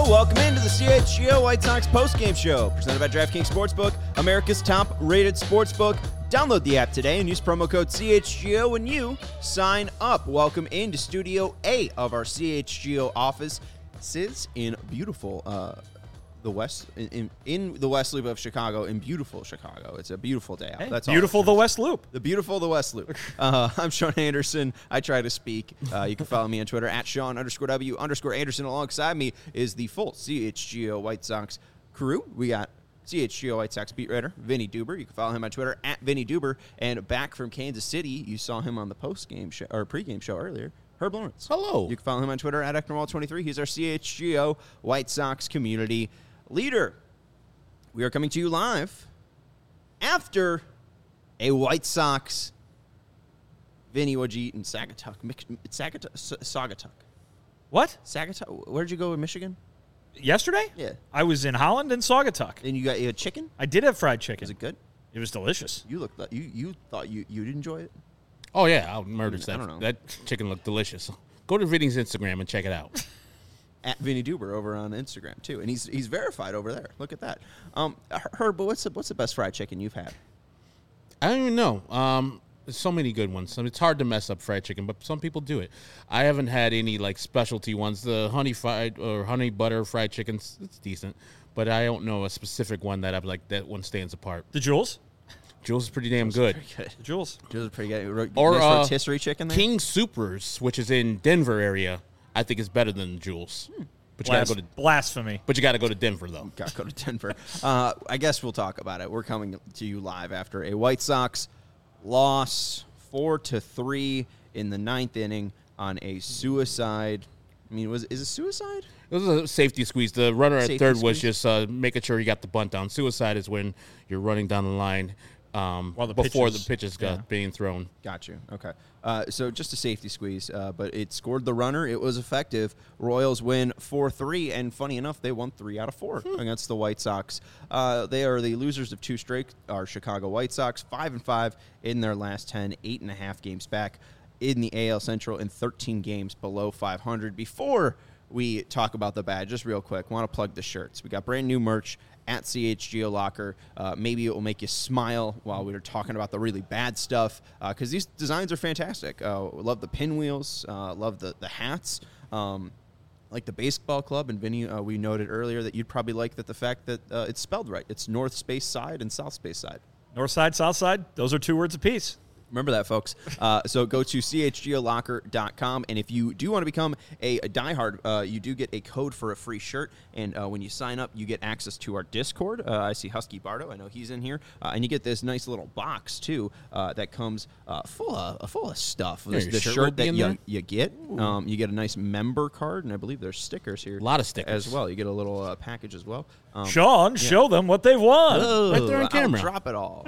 Hello, welcome into the CHGO White Sox postgame show, presented by DraftKings Sportsbook, America's top-rated sportsbook. Download the app today and use promo code CHGO when you sign up. Welcome into Studio A of our CHGO office. Sits in beautiful the west in the West Loop of Chicago, in beautiful Chicago. It's a beautiful day out. Hey, That's beautiful all the West Loop. The beautiful the West Loop. I'm Sean Anderson. I try to speak. You can follow me on Twitter at Sean_W_Anderson. Alongside me is the full CHGO White Sox crew. We got CHGO White Sox beat writer Vinny Duber. You can follow him on Twitter at Vinny Duber. And back from Kansas City, you saw him on the post-game show or pre-game show earlier. Herb Lawrence. Hello. You can follow him on Twitter at Ecknerwall23. He's our CHGO White Sox community leader. We are coming to you live after a White Sox Vinny, what'd you eat in Sagatuck? Sagatuck. What? Sagatuck? Where'd you go in Michigan? Yesterday? Yeah. I was in Holland and Saugatuck. And you had chicken? I did have fried chicken. Was it good? It was delicious. You looked like you thought you'd enjoy it? Oh, yeah, I'll murder I stuff. don't know. That chicken looked delicious. Go to Vinny's Instagram and check it out. At Vinny Duber over on Instagram too, and he's verified over there. Look at that. Herb, but what's the best fried chicken you've had? I don't even know. There's so many good ones. I mean, it's hard to mess up fried chicken, but some people do it. I haven't had any like specialty ones. The honey fried or honey butter fried chickens, it's decent, but I don't know a specific one that I've like that one stands apart. The Jules? Jules is pretty damn good. Good. The Jules. Jules is pretty good. Or nice rotisserie chicken there? King Supers, which is in Denver area, I think is better than Jules. But you gotta go to Blasphemy. But you got to go to Denver though. Got to go to Denver. I guess we'll talk about it. We're coming to you live after a White Sox loss 4-3 in the ninth inning on a suicide. I mean, is it suicide? It was a safety squeeze. The runner at Safety third squeeze? was just making sure he got the bunt down. Suicide is when you're running down the line before the pitches got being thrown. Got you. Okay. So just a safety squeeze, but it scored the runner. It was effective. Royals win 4-3, and funny enough, they won 3 out of 4 against the White Sox. They are the losers of 2 straight. Our Chicago White Sox 5-5 in their last 10, 8.5 games back in the AL Central, and 13 games below 500. Before we talk about the bad, just real quick, want to plug the shirts. We got brand new merch at CHGO Locker. Maybe it will make you smile while we were talking about the really bad stuff, because these designs are fantastic. Love the pinwheels, love the hats, like the baseball club. And Vinny, we noted earlier that you'd probably like the fact that it's spelled right. It's North Space Side and South Space Side. North side, south side, those are 2 words apiece. Remember that, folks. So go to chgolocker.com, and if you do want to become a diehard, you do get a code for a free shirt, and when you sign up, you get access to our Discord. I see Husky Bardo. I know he's in here. And you get this nice little box, too, that comes full of stuff. There's the shirt that you get. You get a nice member card, and I believe there's stickers here. A lot of stickers. As well. You get a little package as well. Sean, show them what they've won. Right there on camera. I'll drop it all.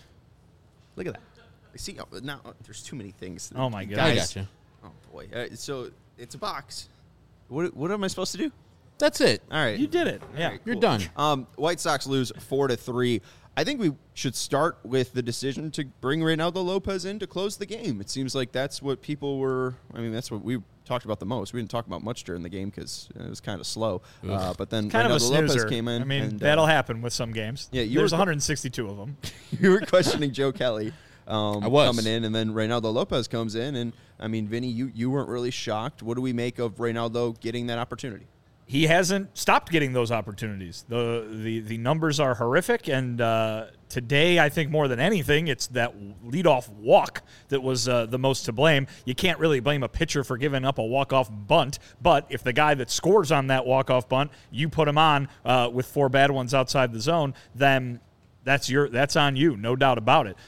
Look at that. See, now there's too many things. Oh, my God. I got you. Oh, boy. So it's a box. What am I supposed to do? That's it. All right. You did it. Yeah. All right, You're cool. done. White Sox lose 4-3. I think we should start with the decision to bring Reynaldo Lopez in to close the game. It seems like that's what people were – I mean, that's what we talked about the most. We didn't talk about much during the game because it was kind of slow. But then Kind of a Reynaldo snoozer. Lopez came in. I mean, and, that'll happen with some games. Yeah, There's 162 of them. You were questioning Joe Kelly. I was. Coming in, and then Reynaldo Lopez comes in, and I mean, Vinny, you weren't really shocked. What do we make of Reynaldo getting that opportunity? He hasn't stopped getting those opportunities. The numbers are horrific, and today, I think more than anything, it's that leadoff walk that was the most to blame. You can't really blame a pitcher for giving up a walk-off bunt, but if the guy that scores on that walk-off bunt, you put him on with 4 bad ones outside the zone, then that's on you, no doubt about it.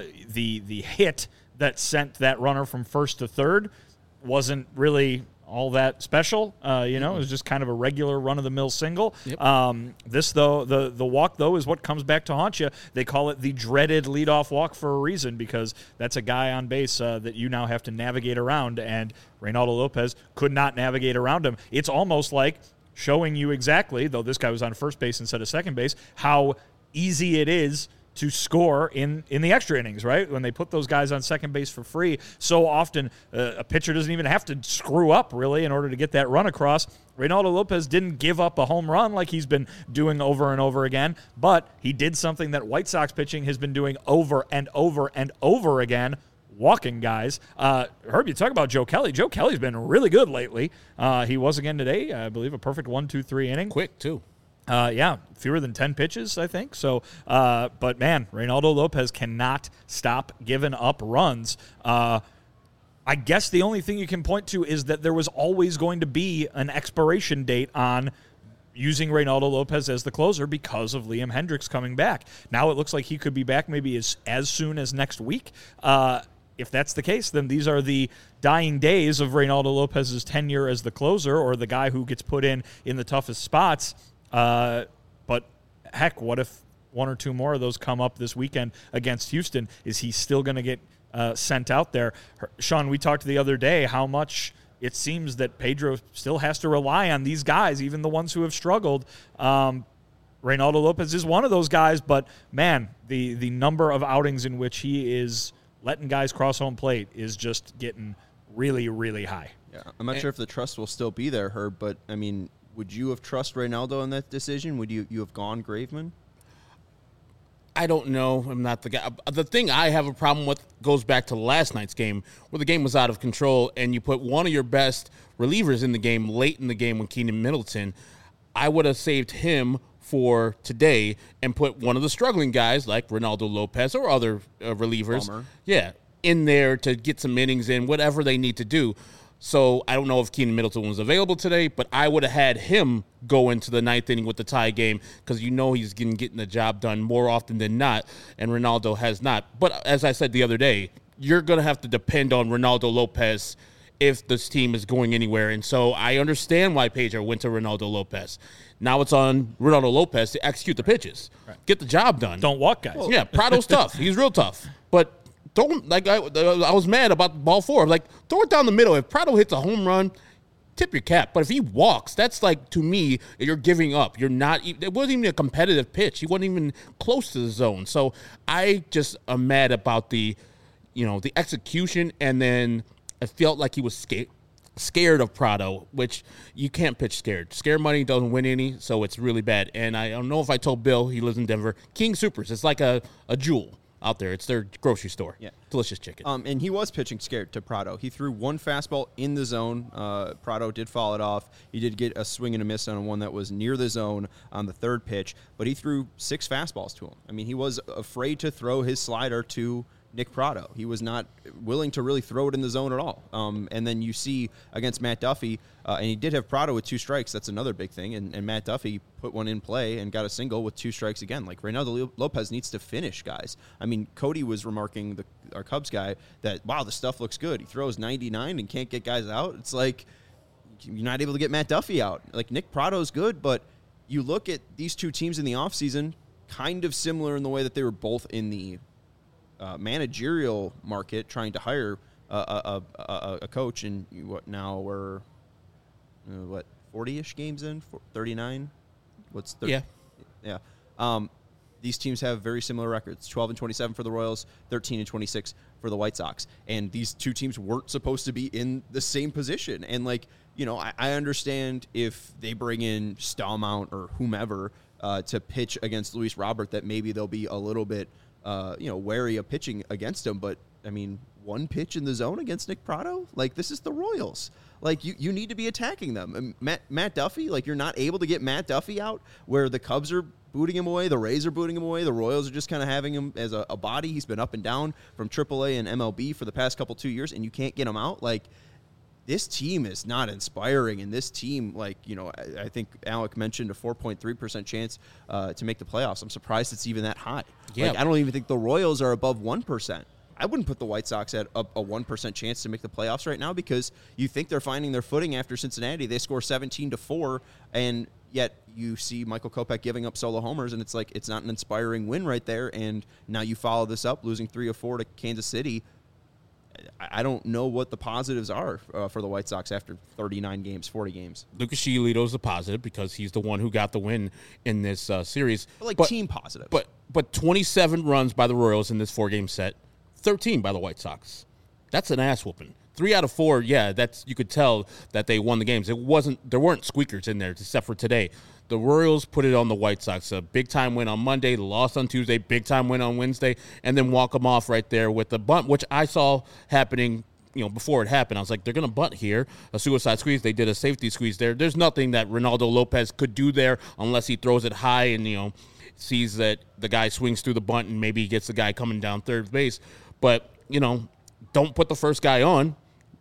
The hit that sent that runner from first to third wasn't really all that special. It was just kind of a regular run-of-the-mill single. Yep. This, though, the walk, though, is what comes back to haunt you. They call it the dreaded leadoff walk for a reason, because that's a guy on base that you now have to navigate around, and Reynaldo Lopez could not navigate around him. It's almost like showing you exactly, though this guy was on first base instead of second base, how easy it is to score in the extra innings, right? When they put those guys on second base for free, so often a pitcher doesn't even have to screw up, really, in order to get that run across. Reynaldo Lopez didn't give up a home run like he's been doing over and over again, but he did something that White Sox pitching has been doing over and over and over again, walking guys. Herb, you talk about Joe Kelly. Joe Kelly's been really good lately. He was again today, I believe, a perfect 1-2-3 inning. Quick, too. Fewer than 10 pitches, I think. So, but man, Reynaldo Lopez cannot stop giving up runs. I guess the only thing you can point to is that there was always going to be an expiration date on using Reynaldo Lopez as the closer because of Liam Hendricks coming back. Now it looks like he could be back maybe as soon as next week. If that's the case, then these are the dying days of Reynaldo Lopez's tenure as the closer or the guy who gets put in the toughest spots. But heck, what if one or two more of those come up this weekend against Houston? Is he still going to get sent out there? Sean, we talked the other day how much it seems that Pedro still has to rely on these guys, even the ones who have struggled. Reynaldo Lopez is one of those guys, but man, the number of outings in which he is letting guys cross home plate is just getting really, really high. Yeah, I'm not sure if the trust will still be there, Herb, but, I mean, would you have trust Reynaldo in that decision? Would you have gone Graveman? I don't know. I'm not the guy. The thing I have a problem with goes back to last night's game where the game was out of control and you put one of your best relievers in the game late in the game with Keenan Middleton. I would have saved him for today and put one of the struggling guys like Reynaldo Lopez or other relievers, Bummer. in there to get some innings in, whatever they need to do. So I don't know if Keenan Middleton was available today, but I would have had him go into the ninth inning with the tie game because he's getting the job done more often than not, and Reynaldo has not. But as I said the other day, you're going to have to depend on Reynaldo Lopez if this team is going anywhere. And so I understand why Pedro went to Reynaldo Lopez. Now it's on Reynaldo Lopez to execute the pitches, get the job done. Don't walk guys. Yeah, Prado's tough. He's real tough. But don't, like, I was mad about ball four. Like, throw it down the middle. If Prado hits a home run, tip your cap. But if he walks, that's like, to me, you're giving up. You're not, it wasn't even a competitive pitch. He wasn't even close to the zone. So I just am mad about the execution. And then I felt like he was scared of Prado, which you can't pitch scared. Scared money doesn't win any, so it's really bad. And I don't know if I told Bill, he lives in Denver, King Supers. It's like a jewel out there. It's their grocery store. Yeah. Delicious chicken. And he was pitching scared to Prado. He threw one fastball in the zone. Prado did foul it off. He did get a swing and a miss on one that was near the zone on the third pitch, but he threw 6 fastballs to him. I mean, he was afraid to throw his slider to Nick Prado. He was not willing to really throw it in the zone at all. And then you see against Matt Duffy, and he did have Prado with 2 strikes. That's another big thing. And Matt Duffy put one in play and got a single with 2 strikes again. Like, Reynaldo Lopez needs to finish, guys. I mean, Cody was remarking, our Cubs guy, that, wow, the stuff looks good. He throws 99 and can't get guys out. It's like you're not able to get Matt Duffy out. Like, Nick Prado's good, but you look at these two teams in the offseason, kind of similar in the way that they were both in the managerial market trying to hire a coach, and now we're 40-ish games in, 39. What's 30? Yeah. These teams have very similar records: 12-27 for the Royals, 13-26 for the White Sox, and these two teams weren't supposed to be in the same position. And I understand if they bring in Stallmount or whomever to pitch against Luis Robert, that maybe they'll be a little bit wary of pitching against him. But, I mean, one pitch in the zone against Nick Prado? Like, this is the Royals. Like, you need to be attacking them. And Matt Duffy, like, you're not able to get Matt Duffy out where the Cubs are booting him away, the Rays are booting him away, the Royals are just kind of having him as a body. He's been up and down from AAA and MLB for the past 2 years, and you can't get him out. Like, this team is not inspiring, and this team, I think Alec mentioned a 4.3% chance to make the playoffs. I'm surprised it's even that high. Yeah. Like, I don't even think the Royals are above 1%. I wouldn't put the White Sox at a 1% chance to make the playoffs right now, because you think they're finding their footing after Cincinnati. They score 17-4, and yet you see Michael Kopech giving up solo homers, and it's like it's not an inspiring win right there. And now you follow this up, losing 3 of 4 to Kansas City. I don't know what the positives are for the White Sox after 39 games, 40 games. Lucas Giolito's a positive because he's the one who got the win in this series. But team positive. But 27 runs by the Royals in this 4-game set, 13 by the White Sox. That's an ass whooping. 3 out of 4, yeah, you could tell that they won the games. There weren't squeakers in there except for today. The Royals put it on the White Sox. A big-time win on Monday, lost on Tuesday, big-time win on Wednesday, and then walk them off right there with the bunt, which I saw happening, before it happened. I was like, they're going to bunt here, a suicide squeeze. They did a safety squeeze there. There's nothing that Ronaldo Lopez could do there unless he throws it high and, sees that the guy swings through the bunt and maybe he gets the guy coming down third base. But, don't put the first guy on.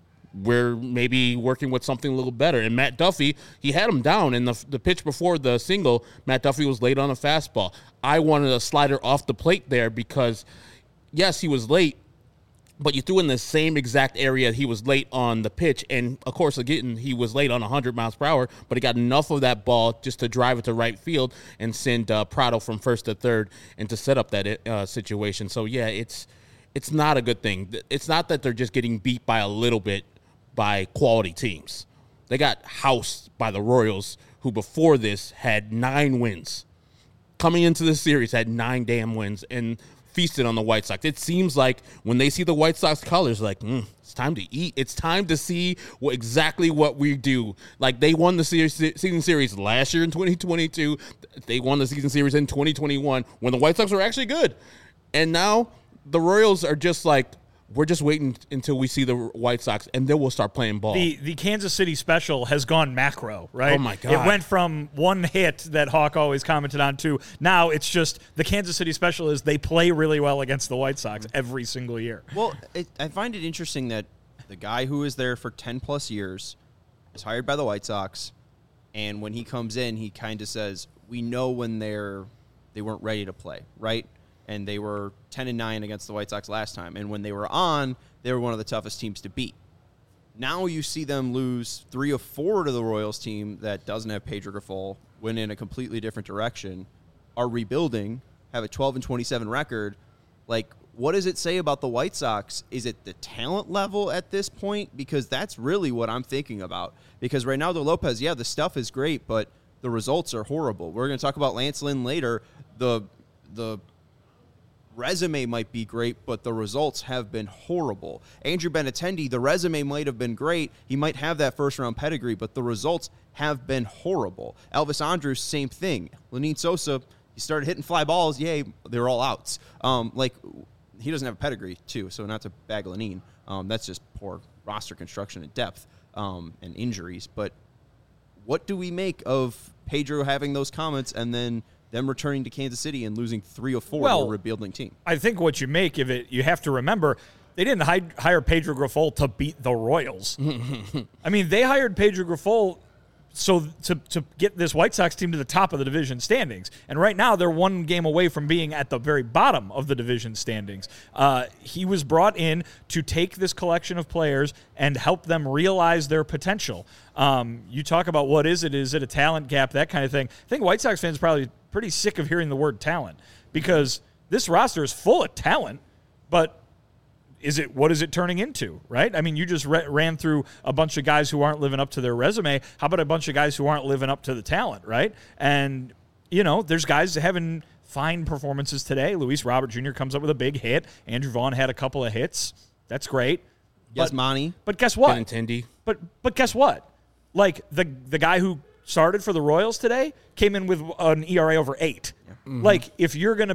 We're maybe working with something a little better. And Matt Duffy, he had him down in the pitch before the single. Matt Duffy was late on a fastball. I wanted a slider off the plate there because, yes, he was late, but you threw in the same exact area he was late on the pitch. And, of course, again, he was late on 100 miles per hour, but he got enough of that ball just to drive it to right field and send Prado from first to third and to set up that situation. So, yeah, it's not a good thing. It's not that they're just getting beat by a little bit by quality teams. They got housed by the Royals, who before this had 9 wins. Coming into this series had 9 damn wins and feasted on the White Sox. It seems like when they see the White Sox colors, like, it's time to eat. It's time to see exactly what we do. Like, they won the season series last year in 2022. They won the season series in 2021 when the White Sox were actually good. And now the Royals are just like, we're just waiting until we see the White Sox, and then we'll start playing ball. The Kansas City special has gone macro, right? Oh, my God. It went from one hit that Hawk always commented on to now it's just the Kansas City special is they play really well against the White Sox every single year. Well, I find it interesting that the guy who was there for 10-plus years is hired by the White Sox, and when he comes in, he kind of says, we know when they weren't ready to play, right? And they were 10-9 against the White Sox last time. And when they were on, they were one of the toughest teams to beat. Now you see them lose 3 of 4 to the Royals team that doesn't have Pedro Grifol, went in a completely different direction, are rebuilding, have a 12-27 record. Like, what does it say about the White Sox? Is it the talent level at this point? Because that's really what I'm thinking about. Because Reynaldo Lopez, yeah, the stuff is great, but the results are horrible. We're going to talk about Lance Lynn later. The resume might be great, but the results have been horrible. Andrew Benintendi, the resume might have been great. He might have that first-round pedigree, but the results have been horrible. Elvis Andrus, same thing. Lenyn Sosa, he started hitting fly balls. Yay, they're all outs. He doesn't have a pedigree, too, so not to bag Lenyn. That's just poor roster construction and depth and injuries. But what do we make of Pedro having those comments and then them returning to Kansas City and losing 3 of 4 to a rebuilding team? I think what you make of it, you have to remember, they didn't hire Pedro Grifol to beat the Royals. I mean, they hired Pedro Grifol to get this White Sox team to the top of the division standings. And right now, they're 1 game away from being at the very bottom of the division standings. He was brought in to take this collection of players and help them realize their potential. You talk about what is it? Is it a talent gap? That kind of thing. I think White Sox fans are probably pretty sick of hearing the word talent because this roster is full of talent, but what is it turning into, right? I mean, you just ran through a bunch of guys who aren't living up to their resume. How about a bunch of guys who aren't living up to the talent, right? And, there's guys having fine performances today. Luis Robert Jr. comes up with a big hit. Andrew Vaughn had a couple of hits. That's great. Yasmani. But guess what? Benintendi. But guess what? Like, the guy who started for the Royals today came in with an ERA over 8. Mm-hmm. Like, if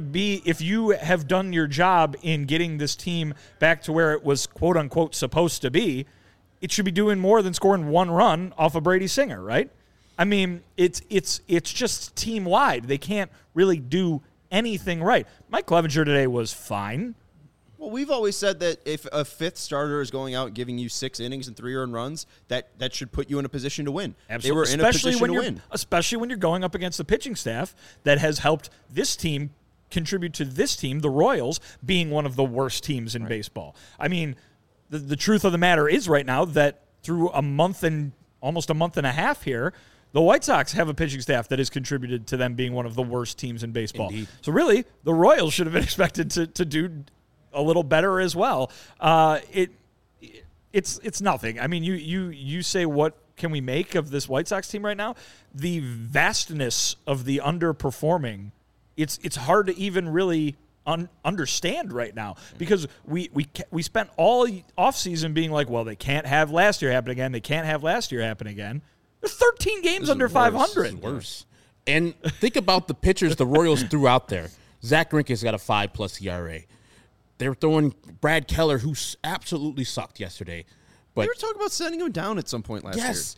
you have done your job in getting this team back to where it was quote unquote supposed to be, it should be doing more than scoring 1 run off of Brady Singer, right? I mean, it's just team wide. They can't really do anything right. Mike Clevenger today was fine. Well, we've always said that if a 5th starter is going out giving you 6 innings and 3 earned runs, that should put you in a position to win. Absolutely. They were in a position to win. Especially when you're going up against the pitching staff that has helped this team contribute to this team, the Royals, being one of the worst teams in baseball. I mean, the truth of the matter is right now that through almost a month and a half here, the White Sox have a pitching staff that has contributed to them being one of the worst teams in baseball. Indeed. So really, the Royals should have been expected to do a little better as well. it's nothing. I mean, you say, what can we make of this White Sox team right now? The vastness of the underperforming, it's hard to even really understand right now, because we spent all offseason being like, well, they can't have last year happen again. They can't have last year happen again. They're 13 games under 500. Worse. And think about the pitchers the Royals threw out there. Zach Greinke's got a 5+ ERA. They're throwing Brad Keller, who absolutely sucked yesterday. But we were talking about sending him down at some point last year. Yes.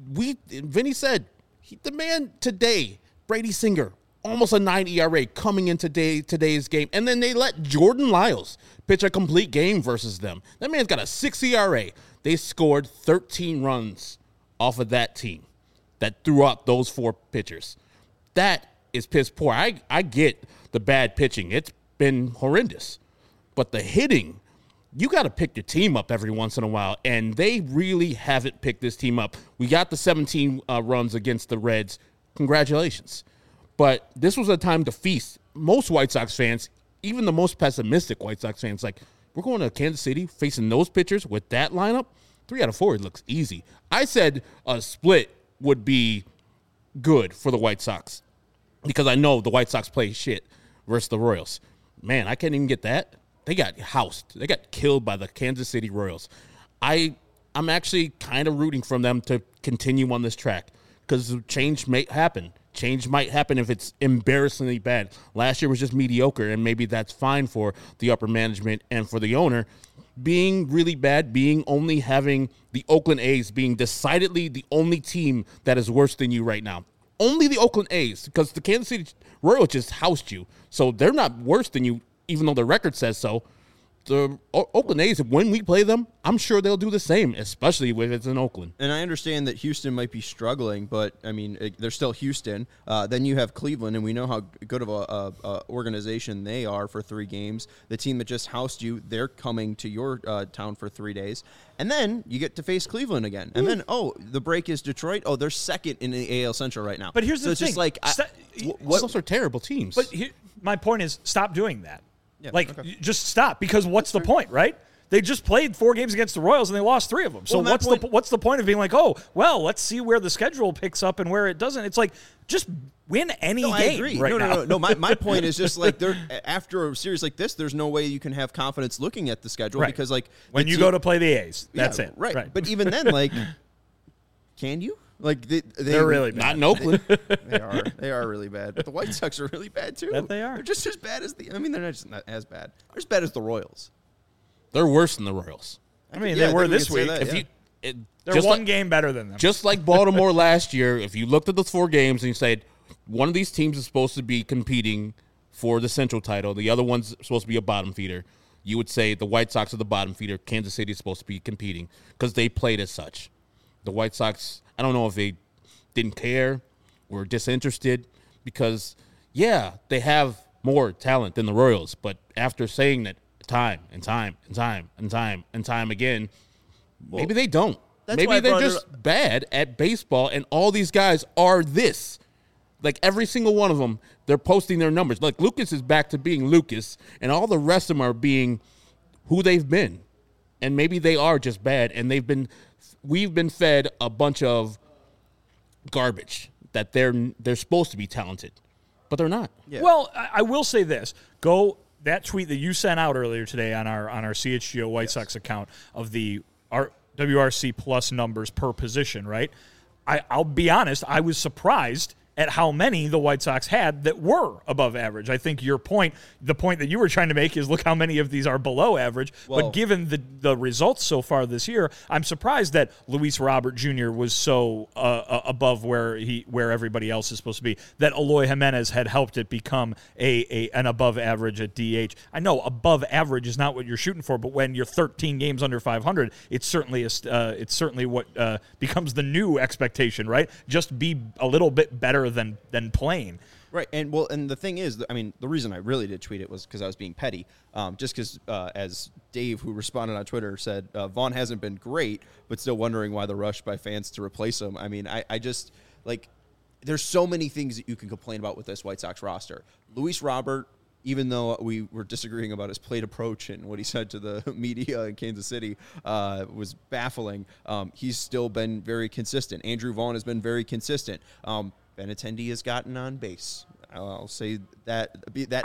Vinny said, the man today, Brady Singer, almost a 9 ERA coming in today's game. And then they let Jordan Lyles pitch a complete game versus them. That man's got a 6 ERA. They scored 13 runs off of that team that threw out those 4 pitchers. That is piss poor. I get the bad pitching. It's been horrendous. But the hitting, you got to pick your team up every once in a while, and they really haven't picked this team up. We got the 17 runs against the Reds. Congratulations. But this was a time to feast. Most White Sox fans, even the most pessimistic White Sox fans, like, we're going to Kansas City facing those pitchers with that lineup? 3 out of 4, it looks easy. I said a split would be good for the White Sox because I know the White Sox play shit versus the Royals. Man, I can't even get that. They got housed. They got killed by the Kansas City Royals. I'm actually kind of rooting for them to continue on this track because change may happen. Change might happen if it's embarrassingly bad. Last year was just mediocre, and maybe that's fine for the upper management and for the owner. Being really bad, only having the Oakland A's being decidedly the only team that is worse than you right now. Only the Oakland A's, because the Kansas City Royals just housed you. So they're not worse than you, even though the record says so. The Oakland A's, when we play them, I'm sure they'll do the same, especially if it's in Oakland. And I understand that Houston might be struggling, but, I mean, they're still Houston. Then you have Cleveland, and we know how good of a organization they are for 3 games. The team that just housed you, they're coming to your town for 3 days. And then you get to face Cleveland again. And then, the break is Detroit. Oh, they're second in the AL Central right now. But here's so the it's thing. Just like, those are terrible teams. But my point is, stop doing that. Just stop, because what's the point, right? They just played 4 games against the Royals and they lost 3 of them. So what's the point of being like, oh, well, let's see where the schedule picks up and where it doesn't? It's like, just win any game. I agree. Right now. No. My point is just like, after a series like this, there's no way you can have confidence looking at the schedule because like when you go to play the A's, that's it. Right. But even then, like, can you? Like they're really bad. Not in Oakland. They are really bad. But the White Sox are really bad too. That they are. They're just as bad as they're not as bad. They're as bad as the Royals. They're worse than the Royals. I mean, they were this week. They're one game better than them. Just like Baltimore last year, if you looked at those 4 games and you said one of these teams is supposed to be competing for the Central title, the other one's supposed to be a bottom feeder, you would say the White Sox are the bottom feeder. Kansas City is supposed to be competing because they played as such. The White Sox, I don't know if they didn't care or disinterested because, they have more talent than the Royals. But after saying that time and time again, maybe they don't. Maybe they're just bad at baseball, and all these guys are this. Like, every single one of them, they're posting their numbers. Like, Lucas is back to being Lucas, and all the rest of them are being who they've been. And maybe they are just bad, and we've been fed a bunch of garbage that they're supposed to be talented, but they're not. Yeah. Well, I will say this. That tweet that you sent out earlier today on our CHGO White Sox account of our WRC plus numbers per position, right? I'll be honest, I was surprised at how many the White Sox had that were above average. I think the point that you were trying to make is look how many of these are below average. Well, but given the results so far this year, I'm surprised that Luis Robert Jr. was so above where everybody else is supposed to be, that Eloy Jimenez had helped it become an above average at DH. I know above average is not what you're shooting for, but when you're 13 games under 500, it's certainly what becomes the new expectation, right? Just be a little bit better than plain. Right, and the thing is, I mean, the reason I really did tweet it was because I was being petty. Just because, as Dave, who responded on Twitter, said, Vaughn hasn't been great, but still wondering why the rush by fans to replace him. I mean, I just, like, there's so many things that you can complain about with this White Sox roster. Luis Robert even though we were disagreeing about his plate approach and what he said to the media in Kansas City was baffling, he's still been very consistent. Andrew Vaughn has been very consistent. Benintendi has gotten on base. I'll say that.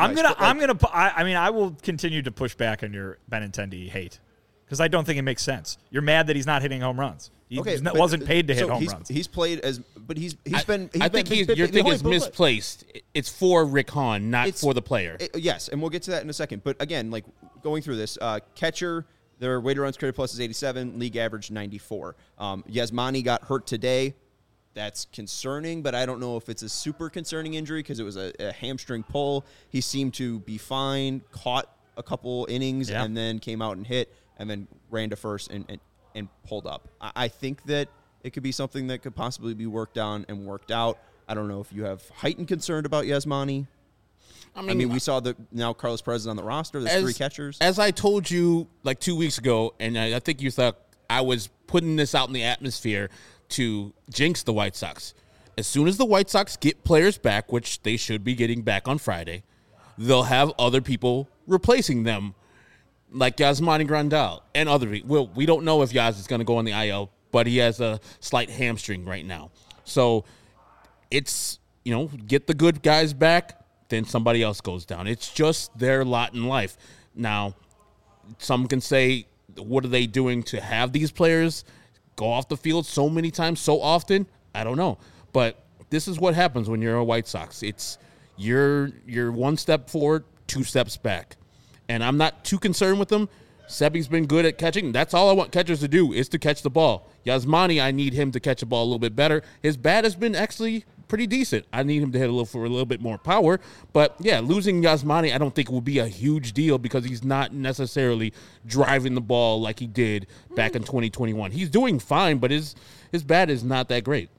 I will continue to push back on your Benintendi hate because I don't think it makes sense. You're mad that he's not hitting home runs. He wasn't paid to hit home runs. He's played as, but he's been. I think your thing is misplaced. It's for Rick Hahn, not for the player. Yes, and we'll get to that in a second. But again, like going through this, catcher, their weighted runs created plus is 87, league average 94. Yasmani got hurt today. That's concerning, but I don't know if it's a super concerning injury because it was a hamstring pull. He seemed to be fine, caught a couple innings, and then came out and hit, and then ran to first and pulled up. I think that it could be something that could possibly be worked on and worked out. I don't know if you have heightened concern about Yasmani. I mean, we saw now Carlos Perez is on the roster. There's 3 catchers. As I told you like 2 weeks ago, and I think you thought I was putting this out in the atmosphere to jinx the White Sox. As soon as the White Sox get players back, which they should be getting back on Friday, they'll have other people replacing them, like Yasmani Grandal and other people. Well, we don't know if Yaz is going to go on the IL, but he has a slight hamstring right now. So it's, get the good guys back, then somebody else goes down. It's just their lot in life. Now, some can say, what are they doing to have these players go off the field so many times, so often? I don't know. But this is what happens when you're a White Sox. It's you're 1 step forward, 2 steps back. And I'm not too concerned with them. Sebi's been good at catching. That's all I want catchers to do is to catch the ball. Yasmani, I need him to catch the ball a little bit better. His bat has been actually pretty decent. I need him to hit for a little bit more power. But, yeah, losing Yasmani I don't think will be a huge deal because he's not necessarily driving the ball like he did back in 2021. He's doing fine, but his bat is not that great.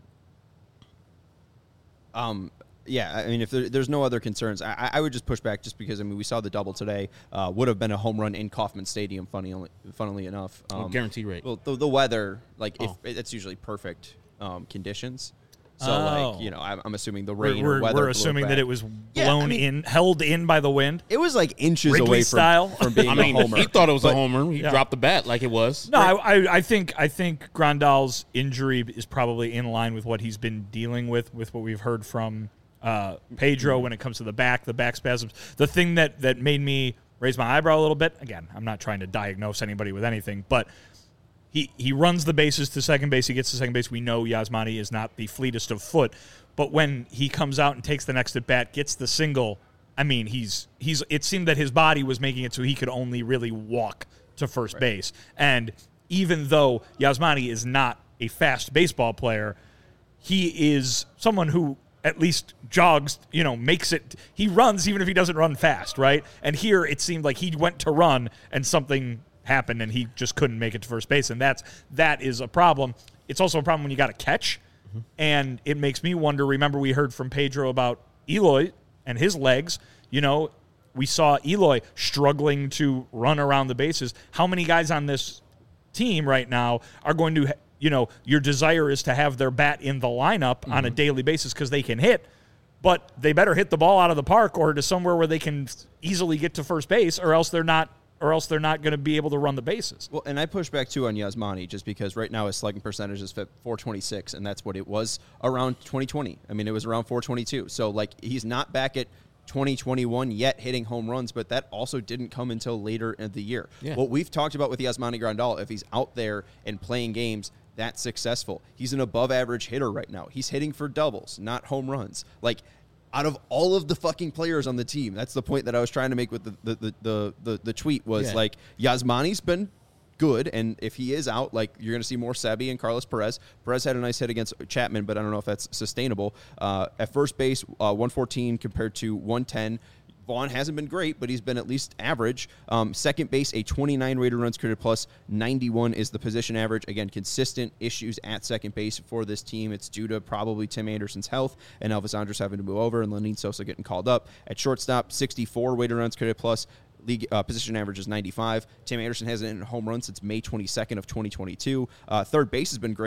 Yeah, I mean, if there's no other concerns, I would just push back just because, we saw the double today. Would have been a home run in Kauffman Stadium, funnily enough. Guarantee rate. Well, the weather, if it's usually perfect conditions. So, I'm assuming the rain or weather. We're assuming that it was blown held in by the wind. It was like inches Wrigley away style. from being a homer. He thought it was a homer. He dropped the bat like it was. No, I think Grandal's injury is probably in line with what he's been dealing with what we've heard from Pedro when it comes to the back spasms. The thing that made me raise my eyebrow a little bit, again, I'm not trying to diagnose anybody with anything, but he runs the bases to second base. He gets to second base. We know Yasmani is not the fleetest of foot, but when he comes out and takes the next at bat, gets the single, it seemed that his body was making it so he could only really walk to first base. And even though Yasmani is not a fast baseball player, he is someone who at least jogs, makes it. He runs even if he doesn't run fast, right? And here it seemed like he went to run and something happened and he just couldn't make it to first base, and that is a problem. It's also a problem when you got to catch, and it makes me wonder. Remember, we heard from Pedro about Eloy and his legs. We saw Eloy struggling to run around the bases. How many guys on this team right now are going to, your desire is to have their bat in the lineup on a daily basis because they can hit, but they better hit the ball out of the park or to somewhere where they can easily get to first base, or else they're not going to be able to run the bases. Well, and I push back too on Yasmani just because right now his slugging percentage is 426, and that's what it was around 2020. It was around 422. So he's not back at 2021 yet hitting home runs, but that also didn't come until later in the year. Yeah. What we've talked about with Yasmani Grandal, if he's out there and playing games, that's successful. He's an above average hitter right now. He's hitting for doubles, not home runs. Out of all of the fucking players on the team, that's the point that I was trying to make with the tweet was Yasmani's been good, and if he is out, you're going to see more Sebi and Carlos Perez. Perez had a nice hit against Chapman, but I don't know if that's sustainable. At first base, 114 compared to 110. Vaughn hasn't been great, but he's been at least average. Second base, a 29 rated runs created plus, 91 is the position average. Again, consistent issues at second base for this team. It's due to probably Tim Anderson's health and Elvis Andrus having to move over and Lenin Sosa getting called up. At shortstop, 64 rated runs created plus. League position average is 95. Tim Anderson hasn't hit a home run since May 22nd of 2022. Third base has been great,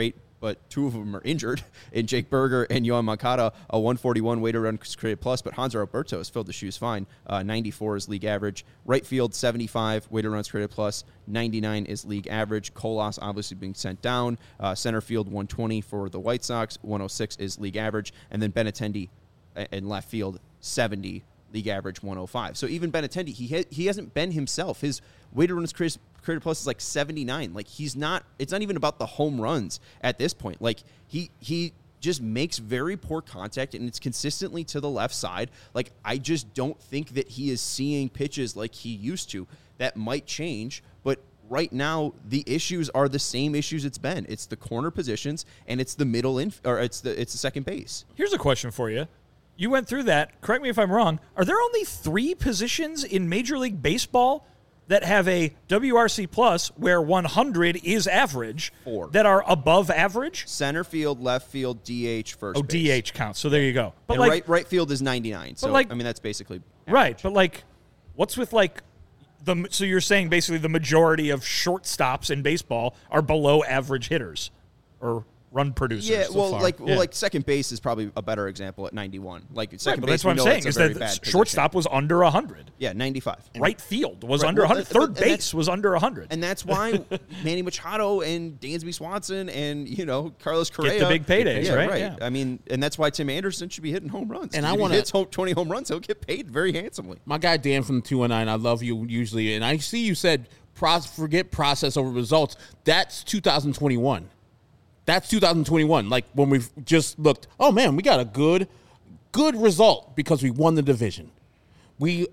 but 2 of them are injured in Jake Berger and Yohan Moncada, a 141 weighted runs created plus, but Hanser Alberto has filled the shoes fine. 94 is league average. Right field, 75 weighted runs created plus, 99 is league average. Colas obviously being sent down. Center field, 120 for the White Sox, 106 is league average. And then Benintendi in left field, 70, league average 105. So even Benintendi, he hasn't been himself. His weighted runs created plus is like 79. Like it's not even about the home runs at this point. Like he just makes very poor contact, and it's consistently to the left side. Like I just don't think that he is seeing pitches like he used to. That might change, but right now the issues are the same issues it's been. It's the corner positions and it's the middle it's the second base. Here's a question for you. You went through that. Correct me if I'm wrong. Are there only 3 positions in Major League Baseball that have a WRC plus where 100 is average 4 that are above average? Center field, left field, DH, first base. DH counts. So there you go. But and right field is 99. So I mean that's basically average. Right. But like, what's with like so you're saying basically the majority of shortstops in baseball are below average hitters or run producers. Yeah, so far. like second base is probably a better example at 91. Like second but base, that's what I'm saying is that shortstop was under 100. Yeah, 95. Right field was under 100. Third base was under 100. And that's why Manny Machado and Dansby Swanson and Carlos Correa get the big paydays, right? Yeah. I mean, and that's why Tim Anderson should be hitting home runs. And if he hits 20 home runs, he'll get paid very handsomely. My guy Dan from the 219, I love you usually, and I see you said forget process over results. That's 2021. That's 2021. Like when we've just looked, oh man, we got a good result because we won the division. We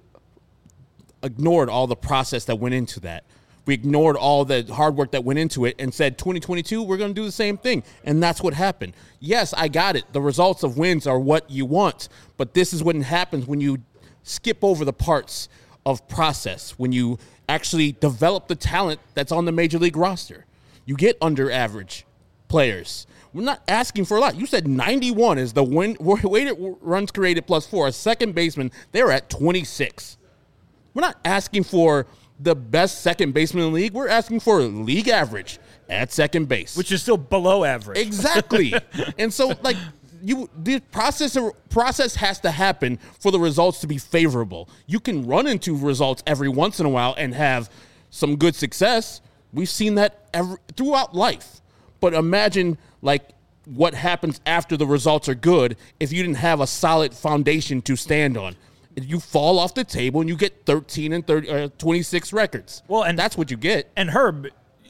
ignored all the process that went into that. We ignored all the hard work that went into it and said 2022, we're going to do the same thing. And that's what happened. Yes, I got it. The results of wins are what you want. But this is what happens when you skip over the parts of process, when you actually develop the talent that's on the major league roster. You get under average players. We're not asking for a lot. You said 91 is the weighted runs created plus 4. A second baseman, they're at 26. We're not asking for the best second baseman in the league. We're asking for league average at second base, which is still below average. Exactly. And so, like, the process has to happen for the results to be favorable. You can run into results every once in a while and have some good success. We've seen that throughout life. But imagine, like, what happens after the results are good if you didn't have a solid foundation to stand on. You fall off the table and you get 13 and 26 records. Well, and that's what you get. And Herb,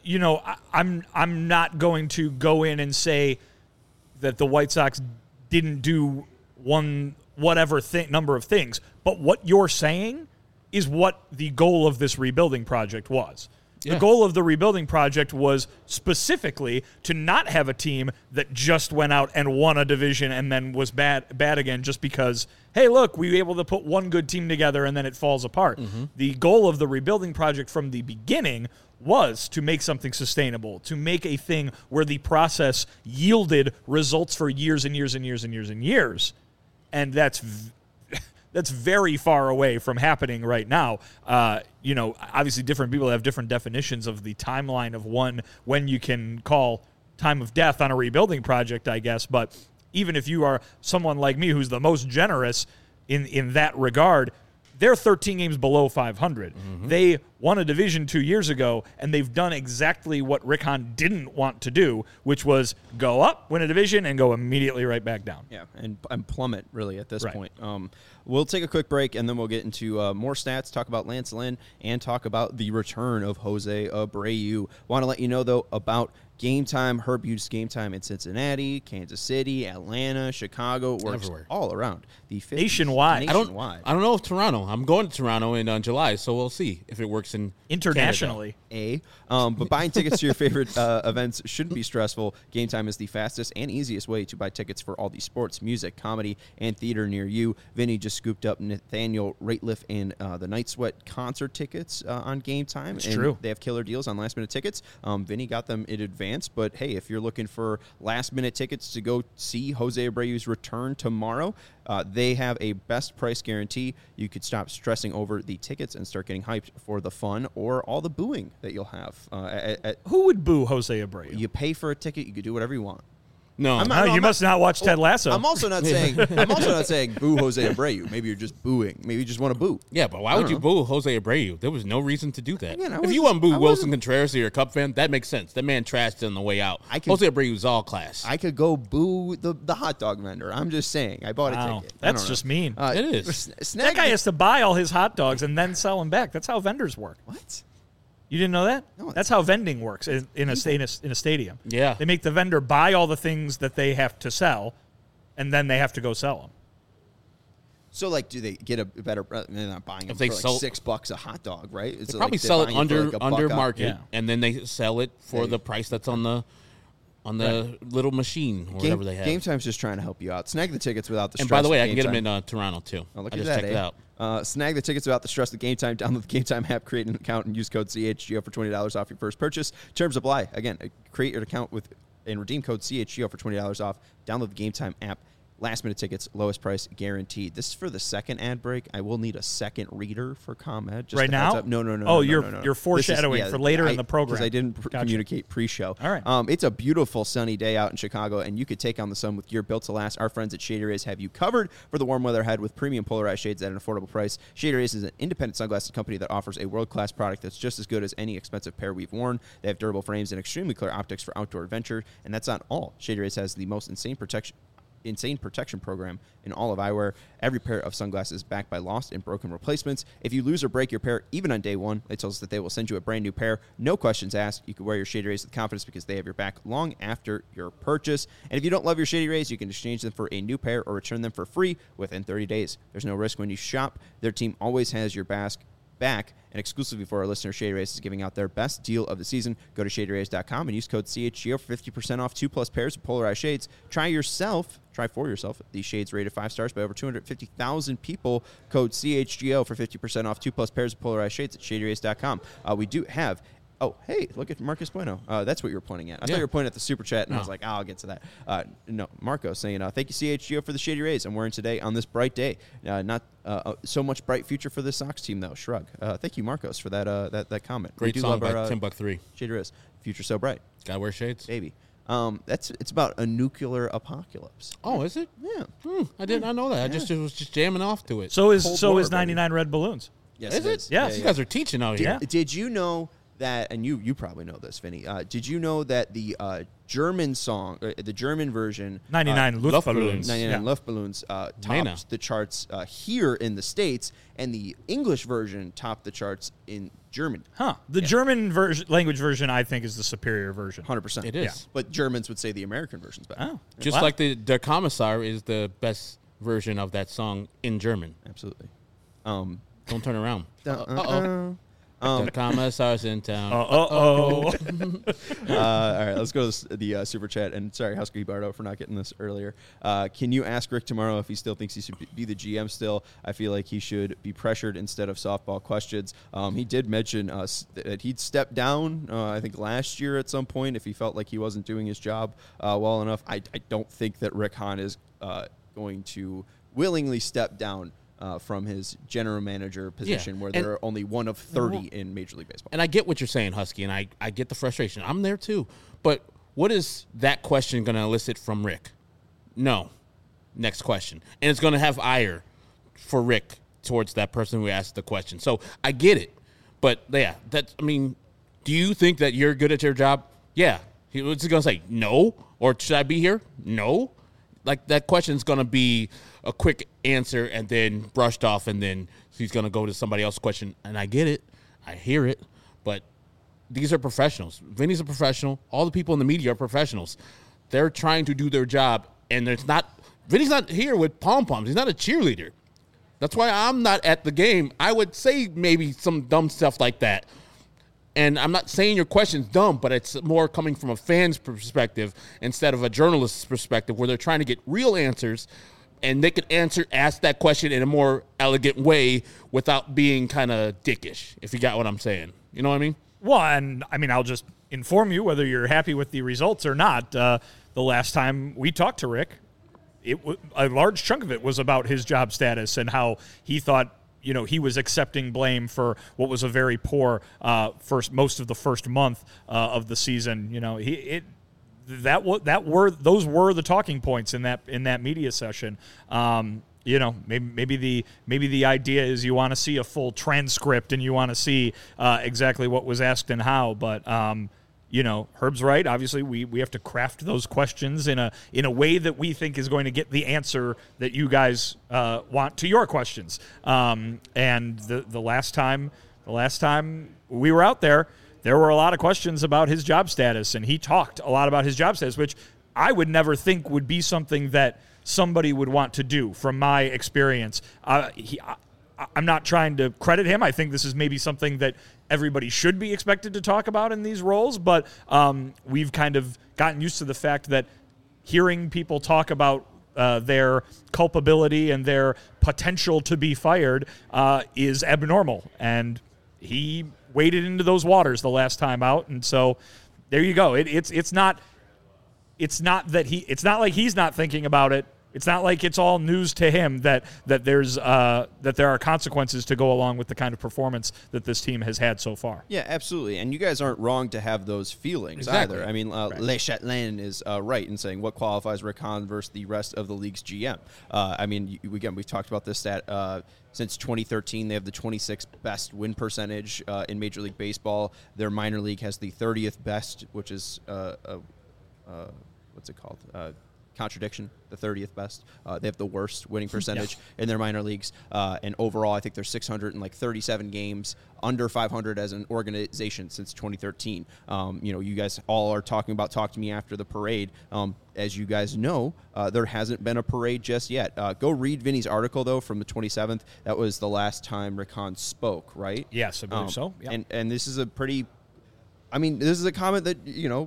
I'm not going to go in and say that the White Sox didn't do whatever number of things. But what you're saying is what the goal of this rebuilding project was. Yeah. The goal of the rebuilding project was specifically to not have a team that just went out and won a division and then was bad again just because, hey, look, we were able to put one good team together and then it falls apart. Mm-hmm. The goal of the rebuilding project from the beginning was to make something sustainable, to make a thing where the process yielded results for years and years and years and years and years. And that's very far away from happening right now. Obviously different people have different definitions of the timeline of when you can call time of death on a rebuilding project, I guess. But even if you are someone like me who's the most generous in that regard, they're 13 games below 500. Mm-hmm. They won a division 2 years ago, and they've done exactly what Rick Hahn didn't want to do, which was go up, win a division, and go immediately right back down. Yeah, and plummet, really, at this point. We'll take a quick break, and then we'll get into more stats, talk about Lance Lynn, and talk about the return of Jose Abreu. Want to let you know, though, about Game Time. Herb used Game Time in Cincinnati, Kansas City, Atlanta, Chicago. It works everywhere, all around the 50s. Nationwide. I don't know if Toronto. I'm going to Toronto in July, so we'll see if it works in internationally. But buying tickets to your favorite events shouldn't be stressful. Game Time is the fastest and easiest way to buy tickets for all the sports, music, comedy, and theater near you. Vinny just scooped up Nathaniel Rateliff and the Night Sweat concert tickets on Game Time. It's true. They have killer deals on last-minute tickets. Vinny got them in advance. But, hey, if you're looking for last-minute tickets to go see Jose Abreu's return tomorrow, they have a best price guarantee. You could stop stressing over the tickets and start getting hyped for the fun or all the booing that you'll have. Who would boo Jose Abreu? You pay for a ticket. You could do whatever you want. No. You must not watch Ted Lasso. I'm also not saying boo Jose Abreu. Maybe you're just booing. Maybe you just want to boo. Yeah, but why would you boo Jose Abreu? There was no reason to do that. Again, if you want to boo Wilson Contreras or you're a Cub fan, that makes sense. That man trashed on the way out. Jose Abreu's all class. I could go boo the hot dog vendor. I'm just saying. I bought a ticket. That's just mean. It is. That guy has to buy all his hot dogs and then sell them back. That's how vendors work. What? You didn't know that? No, that's how vending works in a stadium. Yeah. They make the vendor buy all the things that they have to sell, and then they have to go sell them. So, like, do they get a better? They're not buying them If they for like sold, $6 a hot dog, right? They probably sell it under market, Yeah. and then they sell it for the price that's on the little machine or whatever they have. Game Time's just trying to help you out. Snag the tickets without the stress. And by the way, of I can get Game them Time. in Toronto too. Oh, look I at just that, checked it out. Snag the tickets without the stress of Game Time. Download the Game Time app, create an account, and use code CHGO for $20 off your first purchase. Terms apply. Again, create your account and redeem code CHGO for $20 off. Download the Game Time app. Last minute tickets, lowest price guaranteed. This is for the second ad break. I will need a second reader for ComEd. Just right a heads now? up. No. Oh, no. you're foreshadowing for later in the program. Because I didn't communicate pre-show. All right. It's a beautiful sunny day out in Chicago, and you could take on the sun with gear built to last. Our friends at Shady Rays have you covered for the warm weather ahead with premium polarized shades at an affordable price. Shady Rays is an independent sunglasses company that offers a world-class product that's just as good as any expensive pair we've worn. They have durable frames and extremely clear optics for outdoor adventure, and that's not all. Shady Rays has the most insane protection program in all of eyewear. Every pair of sunglasses is backed by lost and broken replacements. If you lose or break your pair, even on day one, they tell us that they will send you a brand new pair. No questions asked. You can wear your Shady Rays with confidence because they have your back long after your purchase. And if you don't love your Shady Rays, you can exchange them for a new pair or return them for free within 30 days. There's no risk when you shop. Their team always has your back. And exclusively for our listeners, Shady Rays is giving out their best deal of the season. Go to shadyrays.com and use code CHGO for 50% off 2+ pairs of polarized shades. Try for yourself these shades rated 5 stars by over 250,000 people. Code CHGO for 50% off 2+ pairs of polarized shades at shadyrays.com. We do have... Oh, hey, look at Marcus Bueno. That's what you were pointing at. I thought you were pointing at the Super Chat, and I was like, I'll get to that. No, Marco saying, thank you, CHGO, for the Shady Rays I'm wearing today on this bright day. Not so much bright future for the Sox team, though. Shrug. Thank you, Marcos, for that comment. Great song by Tim Buck 3. Shady Rays. Future so bright. Gotta wear shades. Baby. It's about a nuclear apocalypse. Oh, is it? Yeah. I did not know that. I was just jamming off to it. So is 99 Red Balloons. Yes, Is it? Yeah. You guys are teaching out here. Did you know that, and you probably know this, Vinny, did you know that the German song, the German version, 99 Luftballons. 99 Luftballons, topped the charts here in the States, and the English version topped the charts in Germany. Huh. The German language version, I think, is the superior version. 100%. It is. Yeah. But Germans would say the American version's better. Oh. Just Wow. like the Der Kommissar is the best version of that song in German. Absolutely. Don't turn around. Uh-oh. The Kommissar's in town. Uh-oh. All right, let's go to the Super Chat. And sorry, Husky Bardo, for not getting this earlier. Can you ask Rick tomorrow if he still thinks he should be the GM still? I feel like he should be pressured instead of softball questions. He did mention that he'd step down, I think, last year at some point if he felt like he wasn't doing his job well enough. I don't think that Rick Hahn is going to willingly step down from his general manager position, where there are only one of 30 in Major League Baseball. And I get what you're saying, Husky, and I get the frustration. I'm there too. But what is that question going to elicit from Rick? No. Next question. And it's going to have ire for Rick towards that person who asked the question. So I get it. But, yeah, do you think that you're good at your job? Yeah. What's he going to say? No? Or should I be here? No? Like, that question's going to be a quick answer and then brushed off, and then he's going to go to somebody else's question. And I get it. I hear it. But these are professionals. Vinny's a professional. All the people in the media are professionals. They're trying to do their job, and Vinny's not here with pom-poms. He's not a cheerleader. That's why I'm not at the game. I would say maybe some dumb stuff like that. And I'm not saying your question's dumb, but it's more coming from a fan's perspective instead of a journalist's perspective, where they're trying to get real answers, and they could ask that question in a more elegant way without being kind of dickish, if you got what I'm saying. You know what I mean? Well, and I'll just inform you whether you're happy with the results or not. The last time we talked to Rick, a large chunk of it was about his job status and how he thought, he was accepting blame for what was a very poor most of the first month of the season. those were the talking points in that media session. Maybe the idea is you want to see a full transcript and you want to see exactly what was asked and how, but Herb's right. Obviously, we have to craft those questions in a way that we think is going to get the answer that you guys want to your questions. And the last time we were out there were a lot of questions about his job status, and he talked a lot about his job status, which I would never think would be something that somebody would want to do from my experience. I'm not trying to credit him. I think this is maybe something that everybody should be expected to talk about in these roles, but we've kind of gotten used to the fact that hearing people talk about their culpability and their potential to be fired is abnormal, and he waded into those waters the last time out, and so there you go. It's not like he's not thinking about it. It's not like it's all news to him that there are consequences to go along with the kind of performance that this team has had so far. Yeah, absolutely. And you guys aren't wrong to have those feelings either. I mean, right. Le Chatelain is right in saying what qualifies Rick Hahn versus the rest of the league's GM. We've talked about this stat. Since 2013, they have the 26th best win percentage in Major League Baseball. Their minor league has the 30th best, which is what's it called? Contradiction, the 30th best. They have the worst winning percentage in their minor leagues. And overall, I think they're 637 games under 500 as an organization since 2013. You guys all are talking about Talk to Me After the parade. As you guys know, there hasn't been a parade just yet. Go read Vinny's article, though, from the 27th. That was the last time Rick Hahn spoke, right? Yes, I believe so. Yep. And this is a pretty... this is a comment that,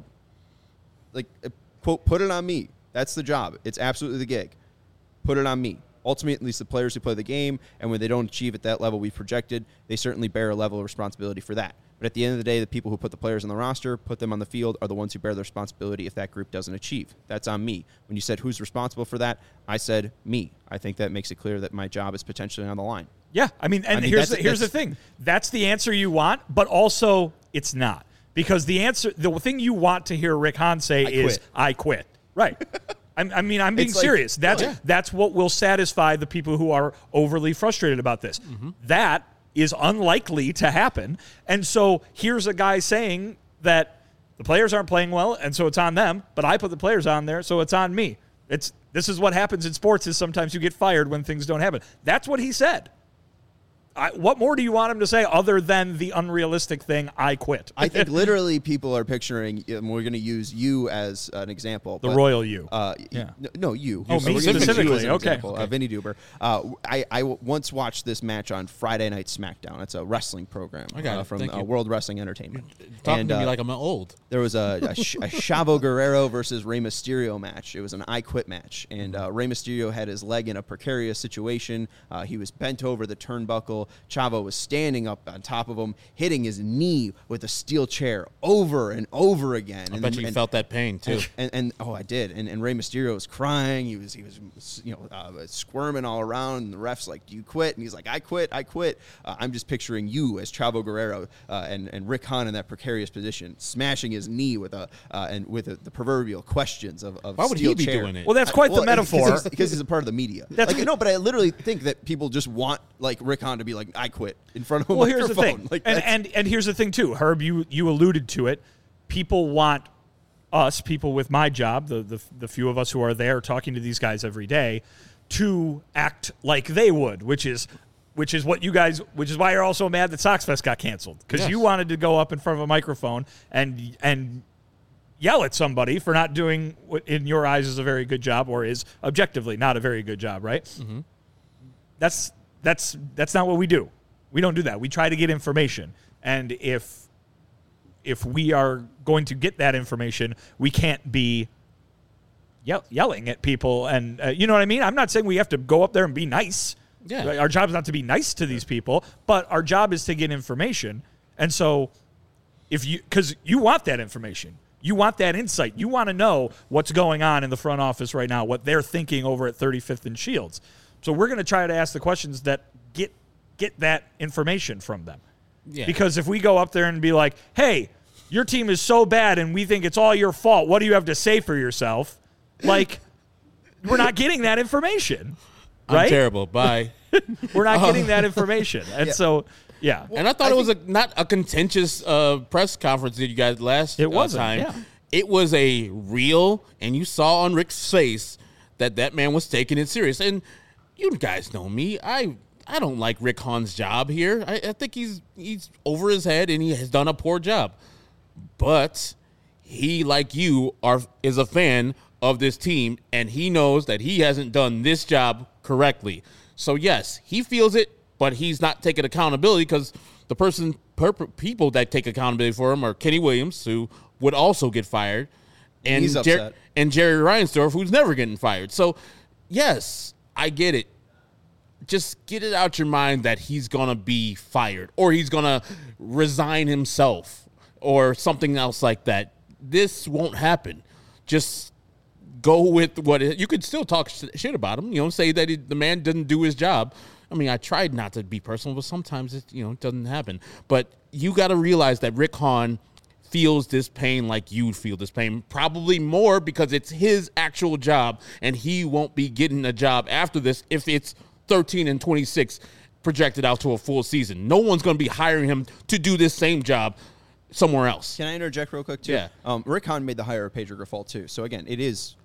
quote, put it on me. That's the job. It's absolutely the gig. Put it on me. Ultimately, it's the players who play the game, and when they don't achieve at that level we've projected, they certainly bear a level of responsibility for that. But at the end of the day, the people who put the players on the roster, put them on the field, are the ones who bear the responsibility if that group doesn't achieve. That's on me. When you said who's responsible for that, I said me. I think that makes it clear that my job is potentially on the line. Yeah, here's the thing. That's the answer you want, but also it's not. Because the thing you want to hear Rick Hahn say is, I quit. Right. I'm being serious. That's what will satisfy the people who are overly frustrated about this. Mm-hmm. That is unlikely to happen. And so here's a guy saying that the players aren't playing well, and so it's on them, but I put the players on there, so it's on me. This is what happens in sports, is sometimes you get fired when things don't happen. That's what he said. What more do you want him to say other than the unrealistic thing, I quit? I think literally people are picturing, and we're going to use you as an example. The royal you. No, you. Oh, me specifically. Okay. Vinny Duber. I once watched this match on Friday Night SmackDown. It's a wrestling program from World Wrestling Entertainment. You're talking to me like I'm old. There was a Chavo Guerrero versus Rey Mysterio match. It was an I quit match. And Rey Mysterio had his leg in a precarious situation. He was bent over the turnbuckle. Chavo was standing up on top of him, hitting his knee with a steel chair over and over again. I bet you felt that pain too. And I did. And Rey Mysterio was crying. He was squirming all around. And the ref's like, "Do you quit?" And he's like, "I quit. I'm just picturing you as Chavo Guerrero and Rick Hahn in that precarious position, smashing his knee with the proverbial questions of Why would he be doing it? Well, that's quite the metaphor because he's a part of the media. But I literally think that people just want Rick Hahn to be like, I quit in front of a microphone. Here's the thing. And here's the thing, too. Herb, you alluded to it. People want us, people with my job, the few of us who are there talking to these guys every day, to act like they would, which is why you're also mad that SoxFest got canceled. Because you wanted to go up in front of a microphone and yell at somebody for not doing what in your eyes is a very good job or is objectively not a very good job, right? Mm-hmm. That's not what we do. We don't do that. We try to get information. And if we are going to get that information, we can't be yelling at people. And you know what I mean? I'm not saying we have to go up there and be nice. Yeah. Our job is not to be nice to these people, but our job is to get information. And so because you want that information. You want that insight. You want to know what's going on in the front office right now, what they're thinking over at 35th and Shields. So we're going to try to ask the questions that get that information from them. Yeah. Because if we go up there and be like, hey, your team is so bad and we think it's all your fault. What do you have to say for yourself? Like, we're not getting that information, right? I'm terrible. Bye. We're not getting that information. And so, yeah. And I thought it was not a contentious press conference that you guys last time. Yeah. It was a real, and you saw on Rick's face that man was taking it serious. And you guys know me. I don't like Rick Hahn's job here. I think he's over his head, and he has done a poor job. But he, like you, is a fan of this team, and he knows that he hasn't done this job correctly. So, yes, he feels it, but he's not taking accountability because the people that take accountability for him are Kenny Williams, who would also get fired, and He's upset. and Jerry Reinsdorf, who's never getting fired. So, yes, I get it. Just get it out your mind that he's going to be fired or he's going to resign himself or something else like that. This won't happen. Just go with you could still talk shit about him, say that the man didn't do his job. I mean, I tried not to be personal, but sometimes it doesn't happen. But you got to realize that Rick Hahn feels this pain like you feel this pain, probably more because it's his actual job, and he won't be getting a job after this if it's 13-26 projected out to a full season. No one's going to be hiring him to do this same job somewhere else. Can I interject real quick, too? Yeah. Rick Hahn made the hire of Pedro Grifol, too. So, again, it is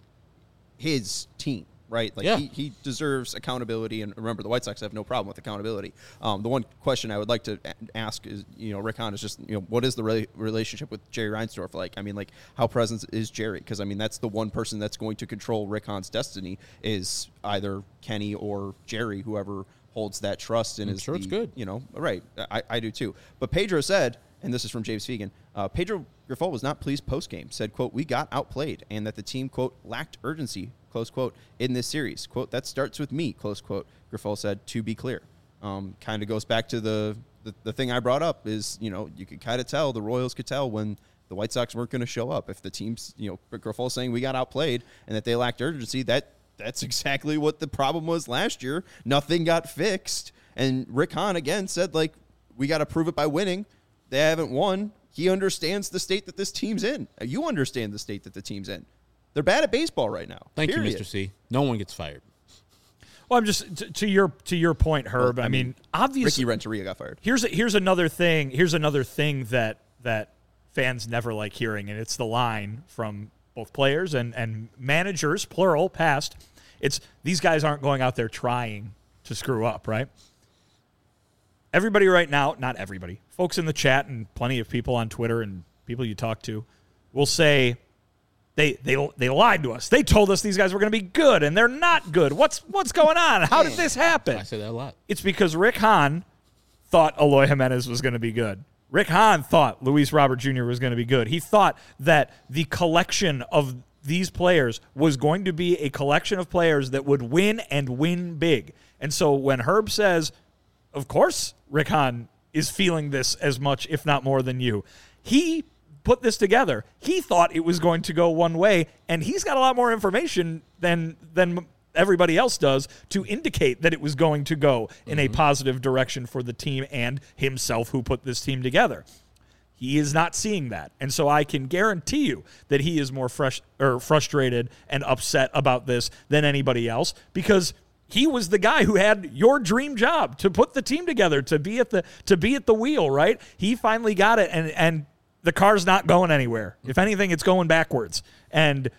his team, right? Like, yeah. he deserves accountability. And remember, the White Sox have no problem with accountability. The one question I would like to ask is, Rick Hahn is just, what is the relationship with Jerry Reinsdorf like? I mean, like, how present is Jerry? Because, I mean, that's the one person that's going to control Rick Hahn's destiny is either Kenny or Jerry, whoever holds that trust. And I'm sure it's good. Right. I do, too. But Pedro said, and this is from James Fegan, Pedro Grifol was not pleased post-game, said, quote, "We got outplayed," and that the team, quote, "lacked urgency," close quote, in this series. Quote, "That starts with me," close quote, Grifol said, to be clear. Kind of goes back to the thing I brought up is, you could kind of tell, the Royals could tell when the White Sox weren't going to show up. If the team's, Grifol saying we got outplayed and that they lacked urgency, that's exactly what the problem was last year. Nothing got fixed. And Rick Hahn, again, said, like, we got to prove it by winning. They haven't won. He understands the state that this team's in. You understand the state that the team's in. They're bad at baseball right now. Thank you, Mr. C. No one gets fired. Well, I'm just to your point, Herb. Well, I mean, obviously, Ricky Renteria got fired. Here's another thing. Here's another thing that fans never like hearing, and it's the line from both players and managers, plural, past. It's these guys aren't going out there trying to screw up, right? Everybody right now, not everybody, folks in the chat and plenty of people on Twitter and people you talk to will say they lied to us. They told us these guys were going to be good, and they're not good. What's going on? How did this happen? I say that a lot. It's because Rick Hahn thought Eloy Jimenez was going to be good. Rick Hahn thought Luis Robert Jr. was going to be good. He thought that the collection of these players was going to be a collection of players that would win and win big. And so when Herb says, of course, Rick Hahn is feeling this as much, if not more than you. He put this together. He thought it was going to go one way, and he's got a lot more information than everybody else does to indicate that it was going to go in a positive direction for the team and himself who put this team together. He is not seeing that. And so I can guarantee you that he is more frustrated and upset about this than anybody else because he was the guy who had your dream job to put the team together, to be at the wheel, right? He finally got it, and the car's not going anywhere. If anything, it's going backwards. And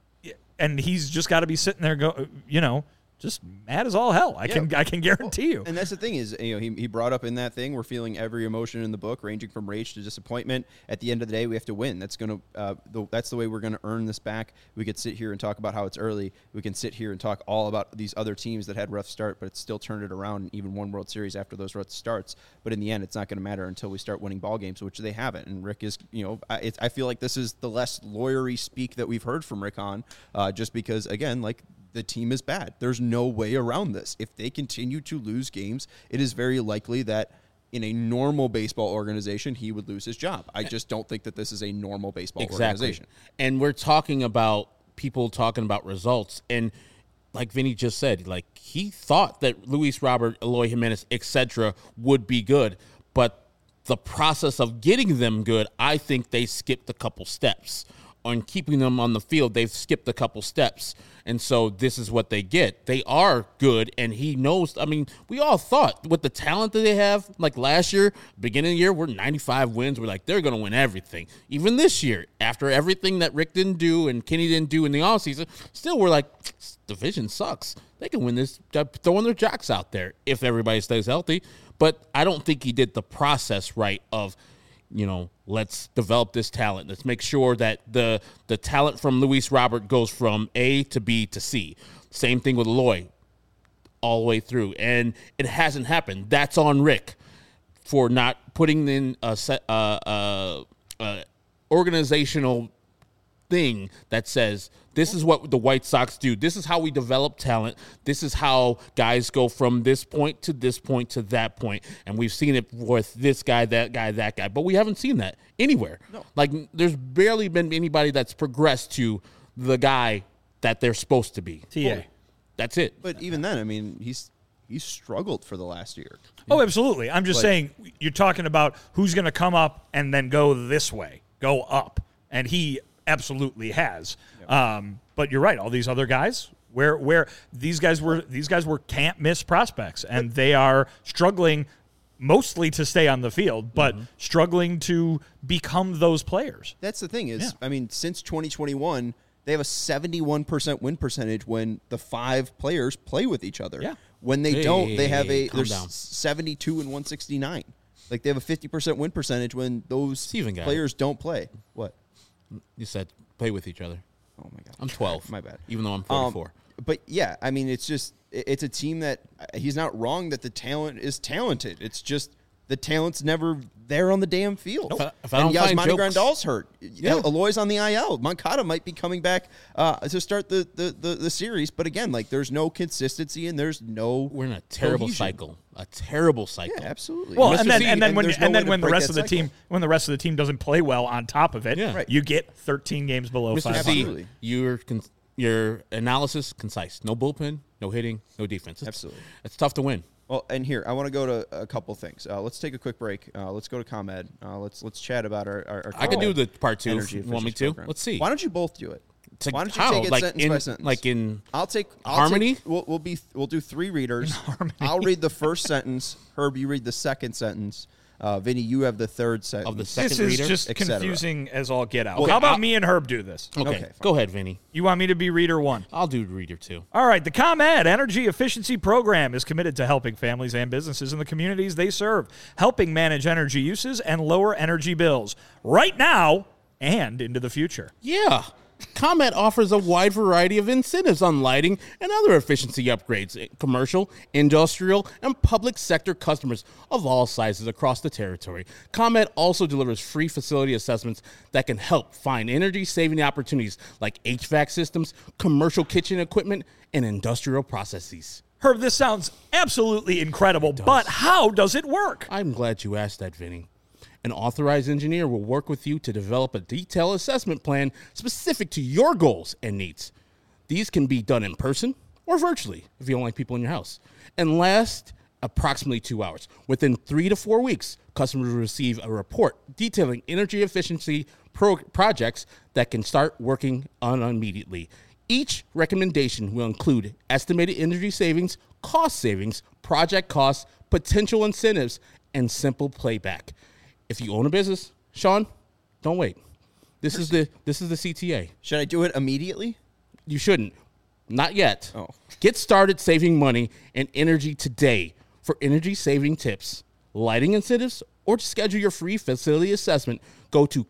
he's just got to be sitting there, just mad as all hell. I can guarantee you. And that's the thing is, he brought up in that thing, we're feeling every emotion in the book, ranging from rage to disappointment. At the end of the day, we have to win. That's that's the way we're going to earn this back. We could sit here and talk about how it's early. We can sit here and talk all about these other teams that had rough start, but it's still turned it around and even won World Series after those rough starts. But in the end, it's not going to matter until we start winning ball games, which they haven't. And Rick is, I feel like this is the less lawyery speak that we've heard from Rick Hahn, just because, again, like, the team is bad. There's no way around this. If they continue to lose games, it is very likely that in a normal baseball organization, he would lose his job. I just don't think that this is a normal baseball organization. And we're talking about people talking about results. And like Vinny just said, like he thought that Luis Robert, Eloy Jimenez, etc. would be good. But the process of getting them good, I think they skipped a couple steps. On keeping them on the field, they've skipped a couple steps. And so this is what they get. They are good, and he knows. I mean, we all thought with the talent that they have, like last year, beginning of the year, we're 95 wins. We're like, they're going to win everything. Even this year, after everything that Rick didn't do and Kenny didn't do in the offseason, still we're like, this division sucks. They can win this, throwing their jocks out there if everybody stays healthy. But I don't think he did the process right of, let's develop this talent. Let's make sure that the talent from Luis Robert goes from A to B to C. Same thing with Loy all the way through. And it hasn't happened. That's on Rick for not putting in a organizational thing that says this is what the White Sox do. This is how we develop talent. This is how guys go from this point to this point to that point. And we've seen it with this guy, that guy, that guy. But we haven't seen that anywhere. No. Like, there's barely been anybody that's progressed to the guy that they're supposed to be. TA. That's it. But even then, I mean, he's struggled for the last year. Oh, absolutely. I'm just saying, you're talking about who's going to come up and then go this way, go up. And he absolutely has. But you're right. All these other guys, where these guys were can't miss prospects, and they are struggling mostly to stay on the field, but struggling to become those players. That's the thing is, I mean, since 2021, they have a 71% win percentage when the 5 players play with each other. Yeah. When they don't, they have they're down. 72 and 169. Like, they have a 50% win percentage when those Steven players don't play. What? You said play with each other. Oh, my God. I'm 12. My bad. Even though I'm 44. But, yeah, I mean, it's a team that he's not wrong that the talent is talented. It's just the talent's never there on the damn field. If I don't find Yasmani jokes- Grandal's hurt. Yeah. Aloy's on the IL. Moncada might be coming back to start the series. But, again, like, there's no consistency and there's no We're in a terrible cohesion. cycle. A terrible cycle. Yeah, absolutely. Well, Mr. and then C, and then when there's no and way then to when the break rest that of the team doesn't play well on top of it, Yeah. Right. you get 13 games below Mr. 500. C, Absolutely. your analysis concise. No bullpen, no hitting, no defense. Absolutely. It's tough to win. Well, and here I want to go to a couple things. Let's take a quick break. Let's go to ComEd. Let's chat about our I can do the part 2 if energy you want me efficiency to. program. Let's see. Why don't you both do it? It's like, Why don't you how? take it Like sentence in, by sentence? Like in I'll harmony? take, we'll do 3 readers. I'll read the first sentence. Herb, you read the second sentence. Vinny, you have the third sentence. Of the second This is reader, just et cetera. confusing as all get out. Well, How about I'll- me and Herb do this? Okay, Okay, fine. go ahead, Vinny. You want me to be reader 1? I'll do reader 2. All right, the ComEd Energy Efficiency Program is committed to helping families and businesses in the communities they serve, helping manage energy uses and lower energy bills right now and into the future. Yeah. ComEd offers a wide variety of incentives on lighting and other efficiency upgrades, commercial, industrial, and public sector customers of all sizes across the territory. ComEd also delivers free facility assessments that can help find energy-saving opportunities like HVAC systems, commercial kitchen equipment, and industrial processes. Herb, this sounds absolutely incredible, but how does it work? I'm glad you asked that, Vinny. An authorized engineer will work with you to develop a detailed assessment plan specific to your goals and needs. These can be done in person or virtually if you don't like people in your house, and last approximately 2 hours. Within 3 to 4 weeks, customers will receive a report detailing energy efficiency projects that can start working on immediately. Each recommendation will include estimated energy savings, cost savings, project costs, potential incentives, and simple playback. If you own a business, Sean, don't wait. This is the CTA. Should I do it immediately? You shouldn't. Not yet. Oh. Get started saving money and energy today. For energy saving tips, lighting incentives, or to schedule your free facility assessment, go to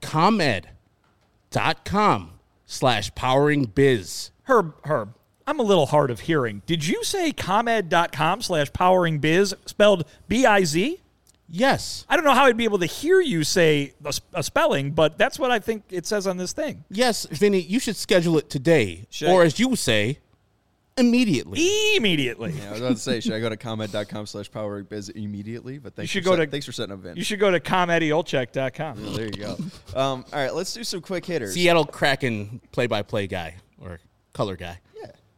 comed.com/poweringbiz. Herb, I'm a little hard of hearing. Did you say comed.com/poweringbiz, spelled B-I-Z? Yes. I don't know how I'd be able to hear you say a spelling, but that's what I think it says on this thing. Yes, Vinny, you should schedule it today. Should or I- as you say, immediately. Immediately. Yeah, I was about to say, should I go to ComEd.com/poweringbiz immediately? But thanks, should for go to- thanks for setting up Vinny. You should go to comediolcheck.com. Well, there you go. All right, let's do some quick hitters. Seattle Kraken play-by-play guy or color guy. Yeah.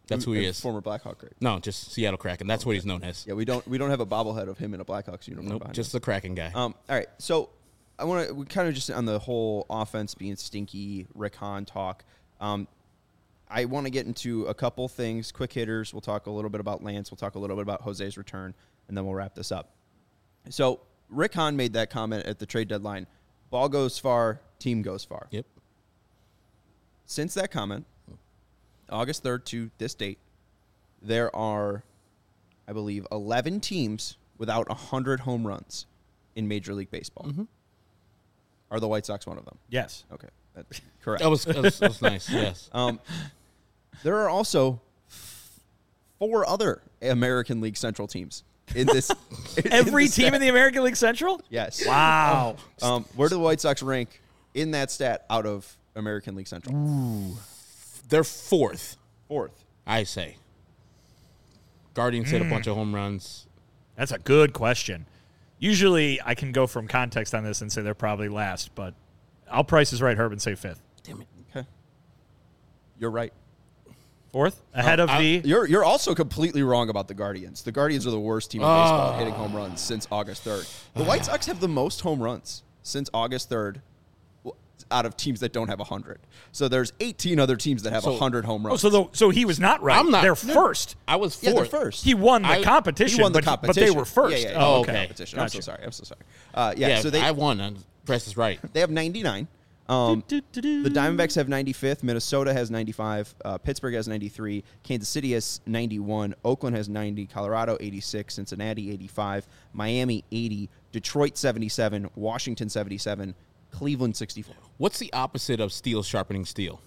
That's who he is. Former Blackhawk, right? No, just Seattle Kraken. That's what he's known as. Yeah, we don't have a bobblehead of him in a Blackhawks uniform. Nope, behind just him. the Kraken guy. All right, so we kind of just on the whole offense being stinky, Rick Hahn talk. I want to get into a couple things, quick hitters. We'll talk a little bit about Lance. We'll talk a little bit about Jose's return, and then we'll wrap this up. So Rick Hahn made that comment at the trade deadline. Ball goes far, team goes far. Yep. Since that comment, August 3rd to this date, there are, I believe, 11 teams without 100 home runs in Major League Baseball. Mm-hmm. Are the White Sox one of them? Yes. Okay, that's correct. That was nice, yes. There are also 4 other American League Central teams in this. Every team in the American League Central? Yes. Wow. Where do the White Sox rank in that stat out of American League Central? They're 4th, 4th. I say. Guardians hit a bunch of home runs. That's a good question. Usually I can go from context on this and say they're probably last, but I'll Price is right, Herb, and say 5th. Damn it. Okay. You're right. 4th? Ahead of the... You're also completely wrong about the Guardians. The Guardians are the worst team in baseball at hitting home runs since August 3rd. The White Sox have the most home runs since August 3rd out of teams that don't have 100. So there's 18 other teams that have 100 home runs. So he was not right. I'm not. They're first. I was 4th. Yeah, they're first. He won the competition. He won the but competition. But they were first. Yeah, Oh, okay. okay. Competition. Gotcha. I'm so sorry. Yeah, so I won. Press is right. they have 99. The Diamondbacks have 95th. Minnesota has 95. Pittsburgh has 93. Kansas City has 91. Oakland has 90. Colorado 86. Cincinnati 85. Miami 80. Detroit 77. Washington 77. Cleveland 64. What's the opposite of steel sharpening steel?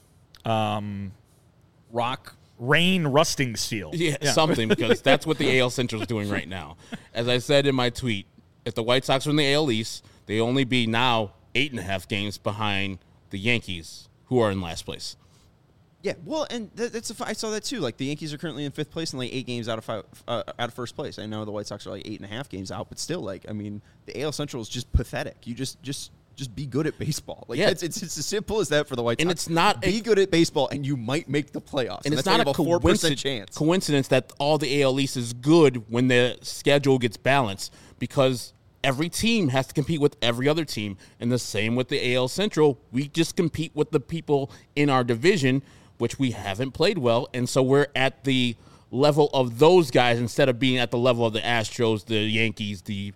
Rock. Rain rusting steel. Yeah, something, because that's what the AL Central is doing right now. As I said in my tweet, if the White Sox were in the AL East, they only be now 8.5 games behind the Yankees, who are in last place. Yeah, well, and I saw that too. Like the Yankees are currently in 5th place and like 8 games out of first place. I know the White Sox are like 8.5 games out, but still, like I mean, the AL Central is just pathetic. You just be good at baseball. Like it's as simple as that for the White Sox. And it's not be good at baseball, and you might make the playoffs. And it's that's not a 4% chance. Coincidence that all the AL East is good when the schedule gets balanced, because every team has to compete with every other team, and the same with the AL Central. We just compete with the people in our division, which we haven't played well, and so we're at the level of those guys instead of being at the level of the Astros, the Yankees, the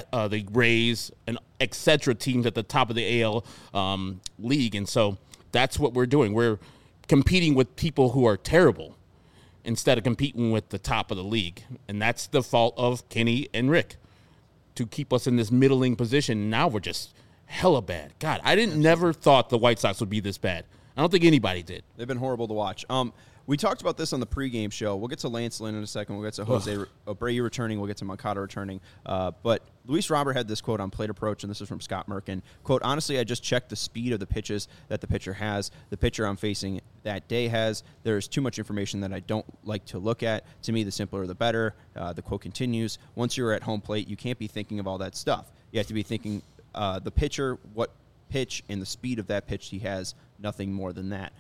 Rays, and etc. teams at the top of the AL league. And so that's what we're doing. We're competing with people who are terrible instead of competing with the top of the league. And that's the fault of Kenny and Rick to keep us in this middling position. Now we're just hella bad. God, never thought the White Sox would be this bad. I don't think anybody did. They've been horrible to watch. We talked about this on the pregame show. We'll get to Lance Lynn in a second. We'll get to Jose Abreu returning. We'll get to Moncada returning. But Luis Robert had this quote on Plate Approach, and this is from Scott Merkin. Quote, honestly, I just checked the speed of the pitches that the pitcher has. The pitcher I'm facing that day has. There's too much information that I don't like to look at. To me, the simpler the better. The quote continues, once you're at home plate, you can't be thinking of all that stuff. You have to be thinking the pitcher, what pitch, and the speed of that pitch he has, nothing more than that.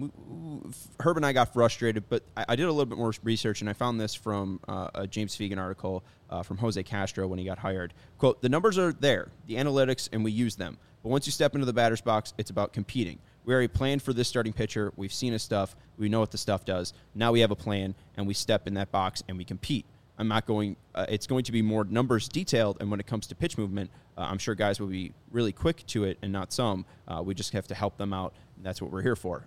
Herb and I got frustrated, but I did a little bit more research, and I found this from a James Fegan article from Jose Castro when he got hired. Quote, the numbers are there, the analytics, and we use them. But once you step into the batter's box, it's about competing. We already planned for this starting pitcher. We've seen his stuff. We know what the stuff does. Now we have a plan, and we step in that box, and we compete. I'm not going it's going to be more numbers detailed, and when it comes to pitch movement, I'm sure guys will be really quick to it and not some. We just have to help them out, and that's what we're here for.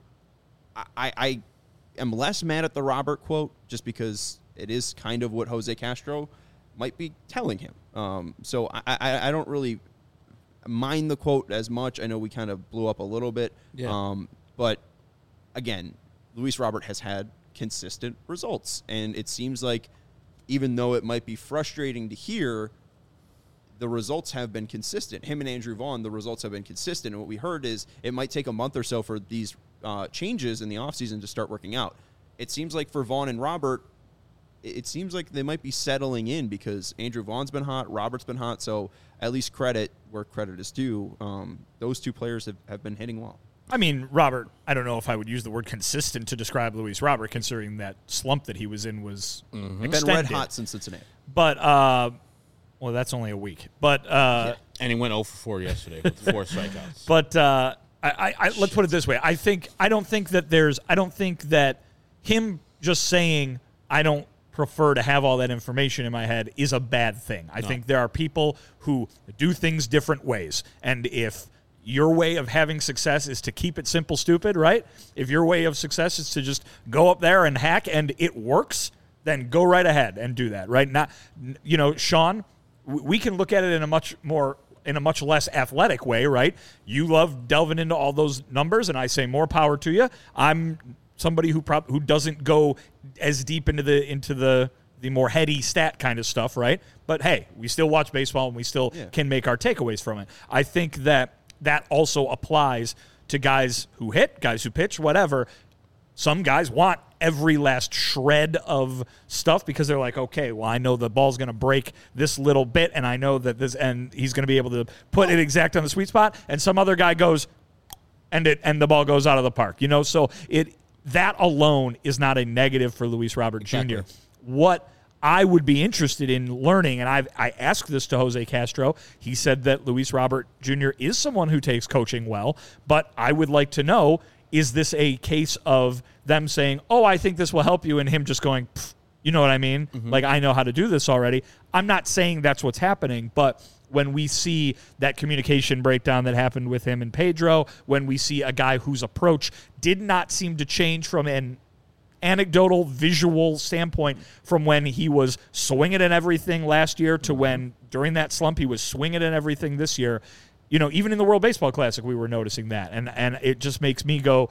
I am less mad at the Robert quote just because it is kind of what Jose Castro might be telling him. So I don't really mind the quote as much. I know we kind of blew up a little bit. Yeah. But, again, Luis Robert has had consistent results, and it seems like even though it might be frustrating to hear, the results have been consistent. Him and Andrew Vaughn, the results have been consistent. And what we heard is it might take a month or so for these changes in the offseason to start working out. It seems like for Vaughn and Robert, it seems like they might be settling in because Andrew Vaughn's been hot, Robert's been hot, so at least credit where credit is due. Those two players have been hitting well. I mean, Robert, I don't know if I would use the word consistent to describe Luis Robert, considering that slump that he was in was extended. Been red hot since Cincinnati. But, well, that's only a week. But And he went 0 for 4 yesterday with 4 strikeouts. But let's put it this way. I don't think that him just saying I don't prefer to have all that information in my head is a bad thing. I think there are people who do things different ways. And if your way of having success is to keep it simple, stupid, right? If your way of success is to just go up there and hack and it works, then go right ahead and do that, right? Not, Sean, we can look at it in a much less athletic way, right? You love delving into all those numbers, and I say more power to you. I'm somebody who doesn't go as deep into the more heady stat kind of stuff, right? But hey, we still watch baseball and we still can make our takeaways from it. I think that also applies to guys who hit, guys who pitch, whatever. Some guys want every last shred of stuff because they're like, okay, well, I know the ball's going to break this little bit, and I know that and he's going to be able to put it exact on the sweet spot. And some other guy goes, and the ball goes out of the park. So that alone is not a negative for Luis Robert Jr. What I would be interested in learning, and I asked this to Jose Castro. He said that Luis Robert Jr. is someone who takes coaching well, but I would like to know, is this a case of them saying, oh, I think this will help you, and him just going, you know what I mean? Mm-hmm. Like, I know how to do this already. I'm not saying that's what's happening, but when we see that communication breakdown that happened with him and Pedro, when we see a guy whose approach did not seem to change from an anecdotal visual standpoint from when he was swinging at everything last year to when during that slump he was swinging at everything this year, even in the World Baseball Classic we were noticing that, and it just makes me go,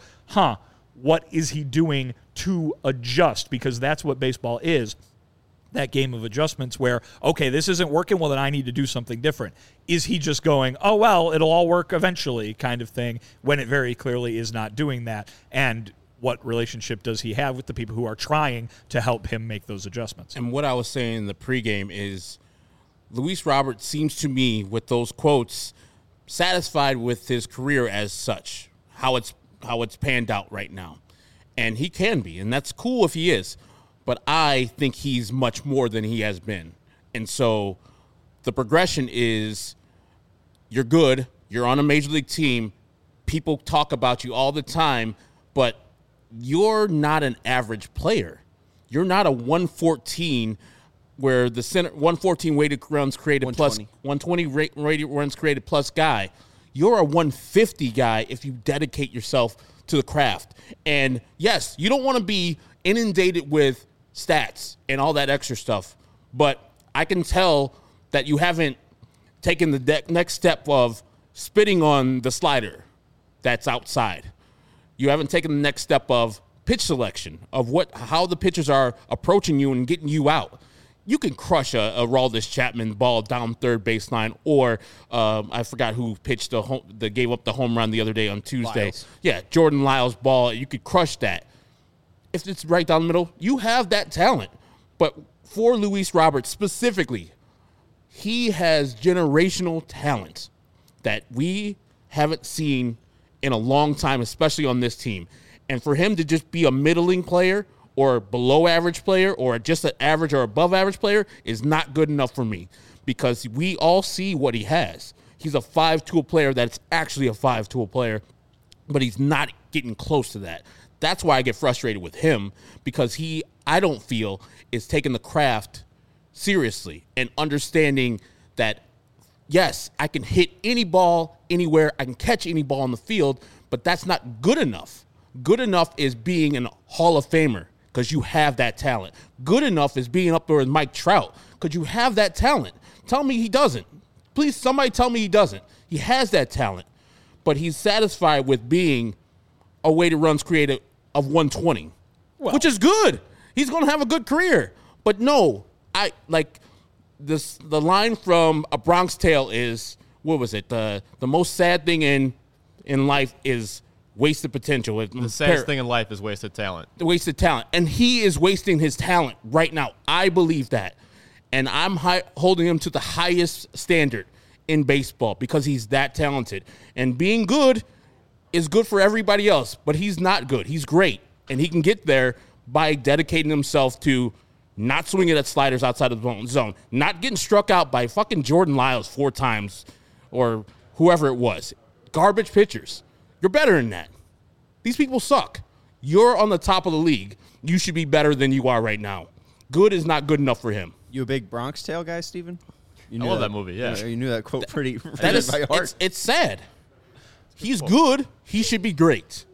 what is he doing to adjust? Because that's what baseball is, that game of adjustments where, okay, this isn't working, well then I need to do something different. Is he just going, oh well, it'll all work eventually kind of thing, when it very clearly is not doing that? And what relationship does he have with the people who are trying to help him make those adjustments? And what I was saying in the pregame is Luis Robert seems to me, with those quotes, satisfied with his career as such, how it's panned out right now. And he can be, and that's cool if he is. But I think he's much more than he has been. And so the progression is you're good, you're on a major league team, people talk about you all the time, but you're not an average player. You're not a 114 where the center 114 weighted runs created 120. Plus 120 weighted runs created plus guy. You're a 150 guy if you dedicate yourself to the craft. And yes, you don't want to be inundated with stats and all that extra stuff, but I can tell that you haven't taken the next step of spitting on the slider that's outside. You haven't taken the next step of pitch selection, of how the pitchers are approaching you and getting you out. You can crush a Aroldis Chapman ball down third baseline, or I forgot who pitched that gave up the home run the other day on Tuesday. Lyles. Yeah, Jordan Lyles' ball. You could crush that. If it's right down the middle, you have that talent. But for Luis Robert specifically, he has generational talent that we haven't seen in a long time, especially on this team. And for him to just be a middling player or below average player or just an average or above average player is not good enough for me, because we all see what he has. He's a 5-tool player that's actually a 5-tool player, but he's not getting close to that. That's why I get frustrated with him, because I don't feel, is taking the craft seriously and understanding that, yes, I can hit any ball anywhere, I can catch any ball on the field, but that's not good enough. Good enough is being a Hall of Famer, because you have that talent. Good enough is being up there with Mike Trout, because you have that talent. Tell me he doesn't. Please, somebody tell me he doesn't. He has that talent, but he's satisfied with being a weighted runs created of 120, which is good. He's going to have a good career. But no, the line from A Bronx Tale is, what was it? The most sad thing in life is wasted potential. The saddest thing in life is wasted talent. Wasted talent. And he is wasting his talent right now. I believe that. And I'm holding him to the highest standard in baseball because he's that talented. And being good is good for everybody else, but he's not good. He's great, and he can get there by dedicating himself to not swinging at sliders outside of the zone, not getting struck out by fucking Jordan Lyles 4 times or whoever it was. Garbage pitchers. You're better than that. These people suck. You're on the top of the league. You should be better than you are right now. Good is not good enough for him. You a big Bronx Tale guy, Steven? You I love that movie, yeah. You knew that quote pretty That is, by heart. it's sad. He's good. He should be great.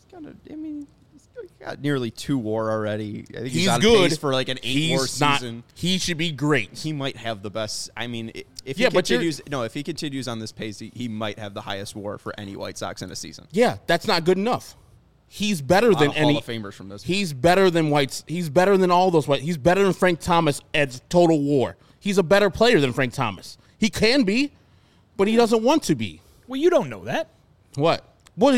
He's got nearly 2 WAR already. I think He's on good pace for like an 8 WAR season. He should be great. He might have the best. I mean, if Yeah, he but continues, if he continues on this pace, he might have the highest WAR for any White Sox in a season. Yeah, that's not good enough. He's better than any Hall of Famers from this. He's better than Whites. He's better than all those Whites. He's better than Frank Thomas at total WAR. He's a better player than Frank Thomas. He can be, but he doesn't want to be. Well, you don't know that. What? Well,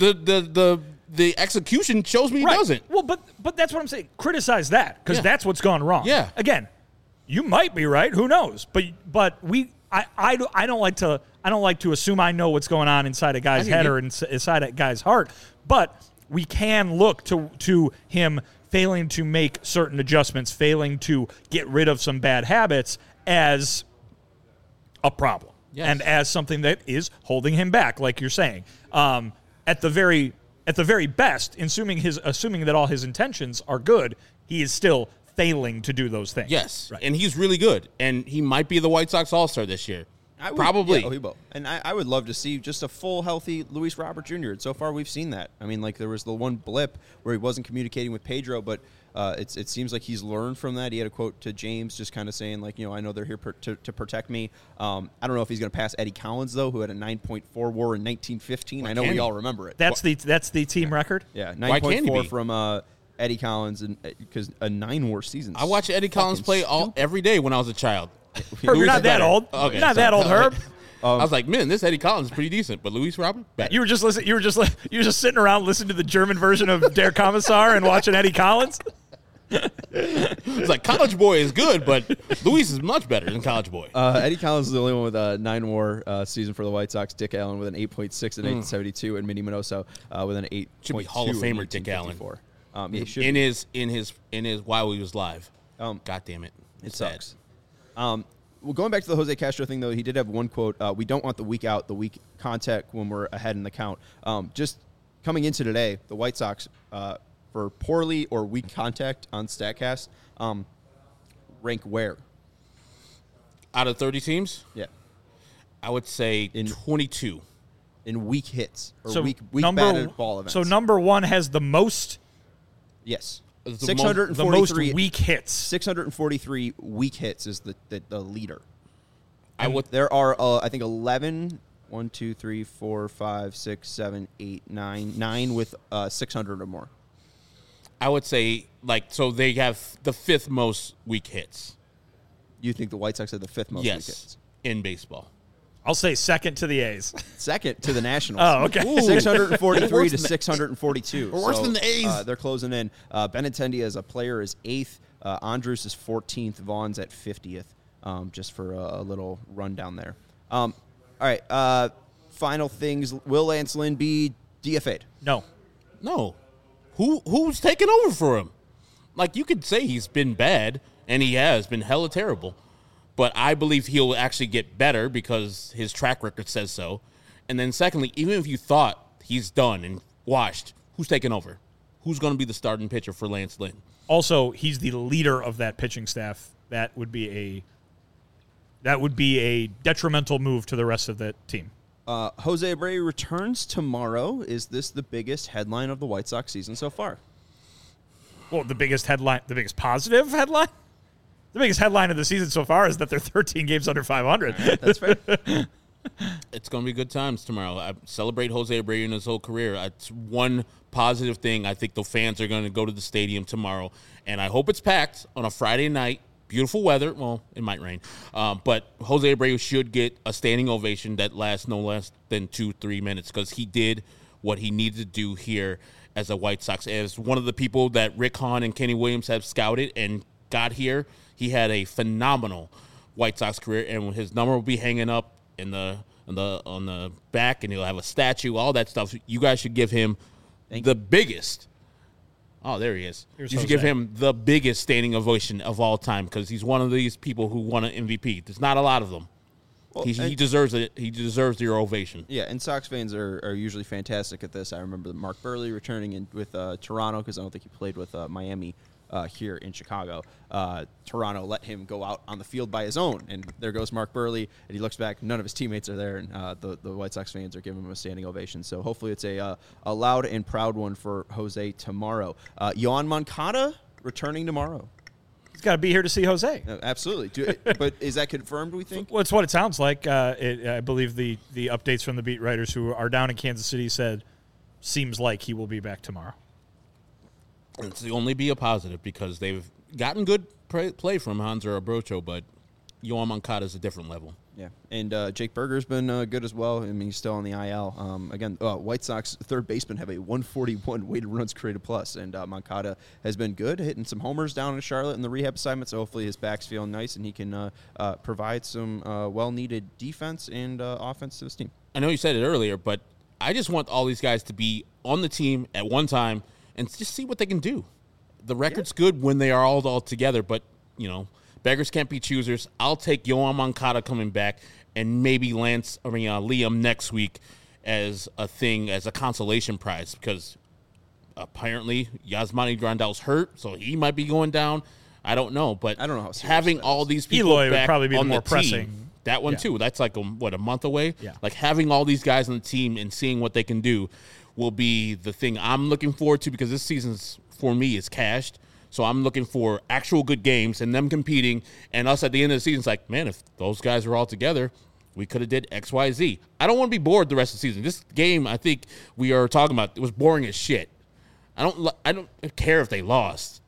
the execution shows me he doesn't. Well, but that's what I'm saying. Criticize that because that's what's gone wrong. Yeah. Again, you might be right. Who knows? But I don't like to assume I know what's going on inside a guy's head or inside a guy's heart. But we can look to him failing to make certain adjustments, failing to get rid of some bad habits as a problem. Yes. And as something that is holding him back, like you're saying. At the very best, assuming that all his intentions are good, he is still failing to do those things. Yes, right. and he's really good, and he might be the White Sox All-Star this year. Probably. Yeah, he will. And I would love to see just a full, healthy Luis Robert Jr. And so far, we've seen that. I mean, like, there was the one blip where he wasn't communicating with Pedro, but it seems like he's learned from that. He had a quote to James just kind of saying, like, I know they're here to protect me. I don't know if he's going to pass Eddie Collins, though, who had a 9.4 WAR in 1915. I know we all remember it. That's the team record? Yeah, Why can't he 9.4 be? from Eddie Collins, and because a 9 WAR season. I watched Eddie Collins play every day when I was a child. Herb, you're not that old. Okay, you're not that old, Herb. I was like, man, this Eddie Collins is pretty decent, but Luis Robert, better. You were just sitting around listening to the German version of Der Kommissar and watching Eddie Collins. It's like College Boy is good, but Luis is much better than College Boy. Eddie Collins is the only one with a 9 WAR season for the White Sox. Dick Allen with an 8.6 in 1972, and Minnie Minoso with an 8.2. Should be Hall of Famer Dick Allen. Yeah, should in be. his while he was live. God damn it, it sucks. Well, going back to the Jose Castro thing, though, he did have one quote. We don't want the weak out, the weak contact when we're ahead in the count. Just coming into today, the White Sox, for poorly or weak contact on StatCast, rank where? Out of 30 teams? Yeah. I would say 22. In weak hits or So weak batted ball events. So number 1 has the most yes. The 643 weak hits. 643 weak hits is the leader. There are I think 11, 1, 2, 3, 4, 5, 6, 7, 8, 9 with 600 or more. I would say so they have the 5th most weak hits. You think the White Sox have the 5th most weak hits? In baseball. I'll say second to the A's. Second to the Nationals. Oh, okay. Ooh. 643 to 642. We're worse than the A's. They're closing in. Benintendi as a player is 8th. Andrus is 14th. Vaughn's at 50th. Just for a little rundown there. All right. Final things. Will Lance Lynn be DFA'd? No. Who's taking over for him? Like, you could say he's been bad, and he has been hella terrible. But I believe he'll actually get better because his track record says so. And then secondly, even if you thought he's done and washed, who's taking over? Who's going to be the starting pitcher for Lance Lynn? Also, he's the leader of that pitching staff. That would be a detrimental move to the rest of the team. Jose Abreu returns tomorrow. Is this the biggest headline of the White Sox season so far? Well, the biggest positive headline? The biggest headline of the season so far is that they're 13 games under 500. That's fair. It's going to be good times tomorrow. I celebrate Jose Abreu in his whole career. It's one positive thing. I think the fans are going to go to the stadium tomorrow, and I hope it's packed on a Friday night. Beautiful weather. Well, it might rain. But Jose Abreu should get a standing ovation that lasts no less than 2-3 minutes because he did what he needed to do here as a White Sox. As one of the people that Rick Hahn and Kenny Williams have scouted and got here, he had a phenomenal White Sox career, and his number will be hanging up in the on the back, and he'll have a statue, all that stuff. You guys should give him the biggest. Oh, there he is. Here's you should Jose. give him the biggest standing ovation of all time because he's one of these people who won an MVP. There's not a lot of them. Well, He deserves it. He deserves your ovation. Yeah, and Sox fans are usually fantastic at this. I remember Mark Burley returning in with Toronto because I don't think he played with Miami here in Chicago. Toronto let him go out on the field by his own, and there goes Mark Burley, and he looks back. None of his teammates are there, and the White Sox fans are giving him a standing ovation. So hopefully it's a loud and proud one for Jose tomorrow. Yoan Moncada returning tomorrow. He's got to be here to see Jose. Absolutely. But is that confirmed, we think? Well, it's what it sounds like. I believe the updates from the beat writers who are down in Kansas City said seems like he will be back tomorrow. It's only be a positive because they've gotten good play from Hanser Abrocho, but Yoan Moncada is a different level. Yeah, and Jake Berger's been good as well. I mean, he's still on the IL. Again, White Sox third baseman have a 141 weighted runs created plus, and Moncada has been good, hitting some homers down in Charlotte in the rehab assignment. So hopefully his back's feeling nice, and he can provide some well-needed defense and offense to this team. I know you said it earlier, but I just want all these guys to be on the team at one time and just see what they can do. The record's good when they are all together, but, beggars can't be choosers. I'll take Yoan Moncada coming back and maybe Liam next week as a consolation prize because apparently Yasmani Grandal's hurt, so he might be going down. I don't know, but I don't know how serious having that all is. these people Eloy would back probably be on the more the pressing. team, that one too. That's like a month away. Yeah. Like having all these guys on the team and seeing what they can do will be the thing I'm looking forward to because this season's for me is cashed. So I'm looking for actual good games and them competing, and us at the end of the season. It's like, man, if those guys were all together, we could have did X, Y, Z. I don't want to be bored the rest of the season. This game, I think we are talking about, it was boring as shit. I don't care if they lost.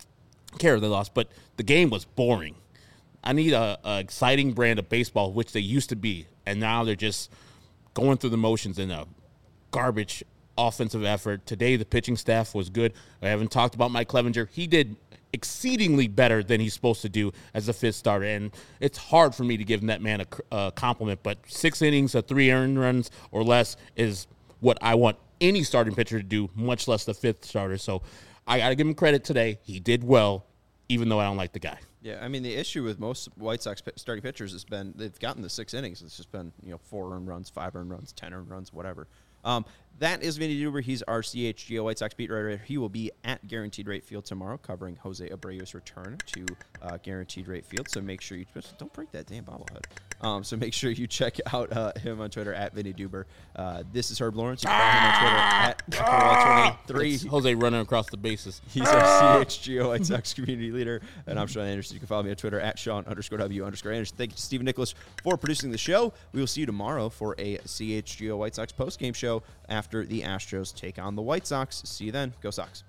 But the game was boring. I need a exciting brand of baseball, which they used to be, and now they're just going through the motions in a garbage offensive effort. Today, the pitching staff was good. I haven't talked about Mike Clevenger. He did exceedingly better than he's supposed to do as a fifth starter, and it's hard for me to give that man a compliment, but 6 innings of 3 earned runs or less is what I want any starting pitcher to do, much less the fifth starter. So I got to give him credit today. He did well, even though I don't like the guy. Yeah, I mean, the issue with most White Sox starting pitchers has been they've gotten the 6 innings. It's just been 4 earned runs, 5 earned runs, 10 earned runs, whatever. That is Vinny Duber. He's our CHGO White Sox beat writer. He will be at Guaranteed Rate Field tomorrow covering Jose Abreu's return to Guaranteed Rate Field. So make sure you don't break that damn bobblehead. So make sure you check out him on Twitter at Vinny Duber. This is Herb Lawrence. You can follow him on Twitter at 23. It's Jose running across the bases. He's our CHGO White Sox community leader, and I'm Sean Anderson. You can follow me on Twitter at Sean_W_Anderson. Thank you to Stephen Nicholas for producing the show. We will see you tomorrow for a CHGO White Sox postgame show after the Astros take on the White Sox. See you then. Go Sox.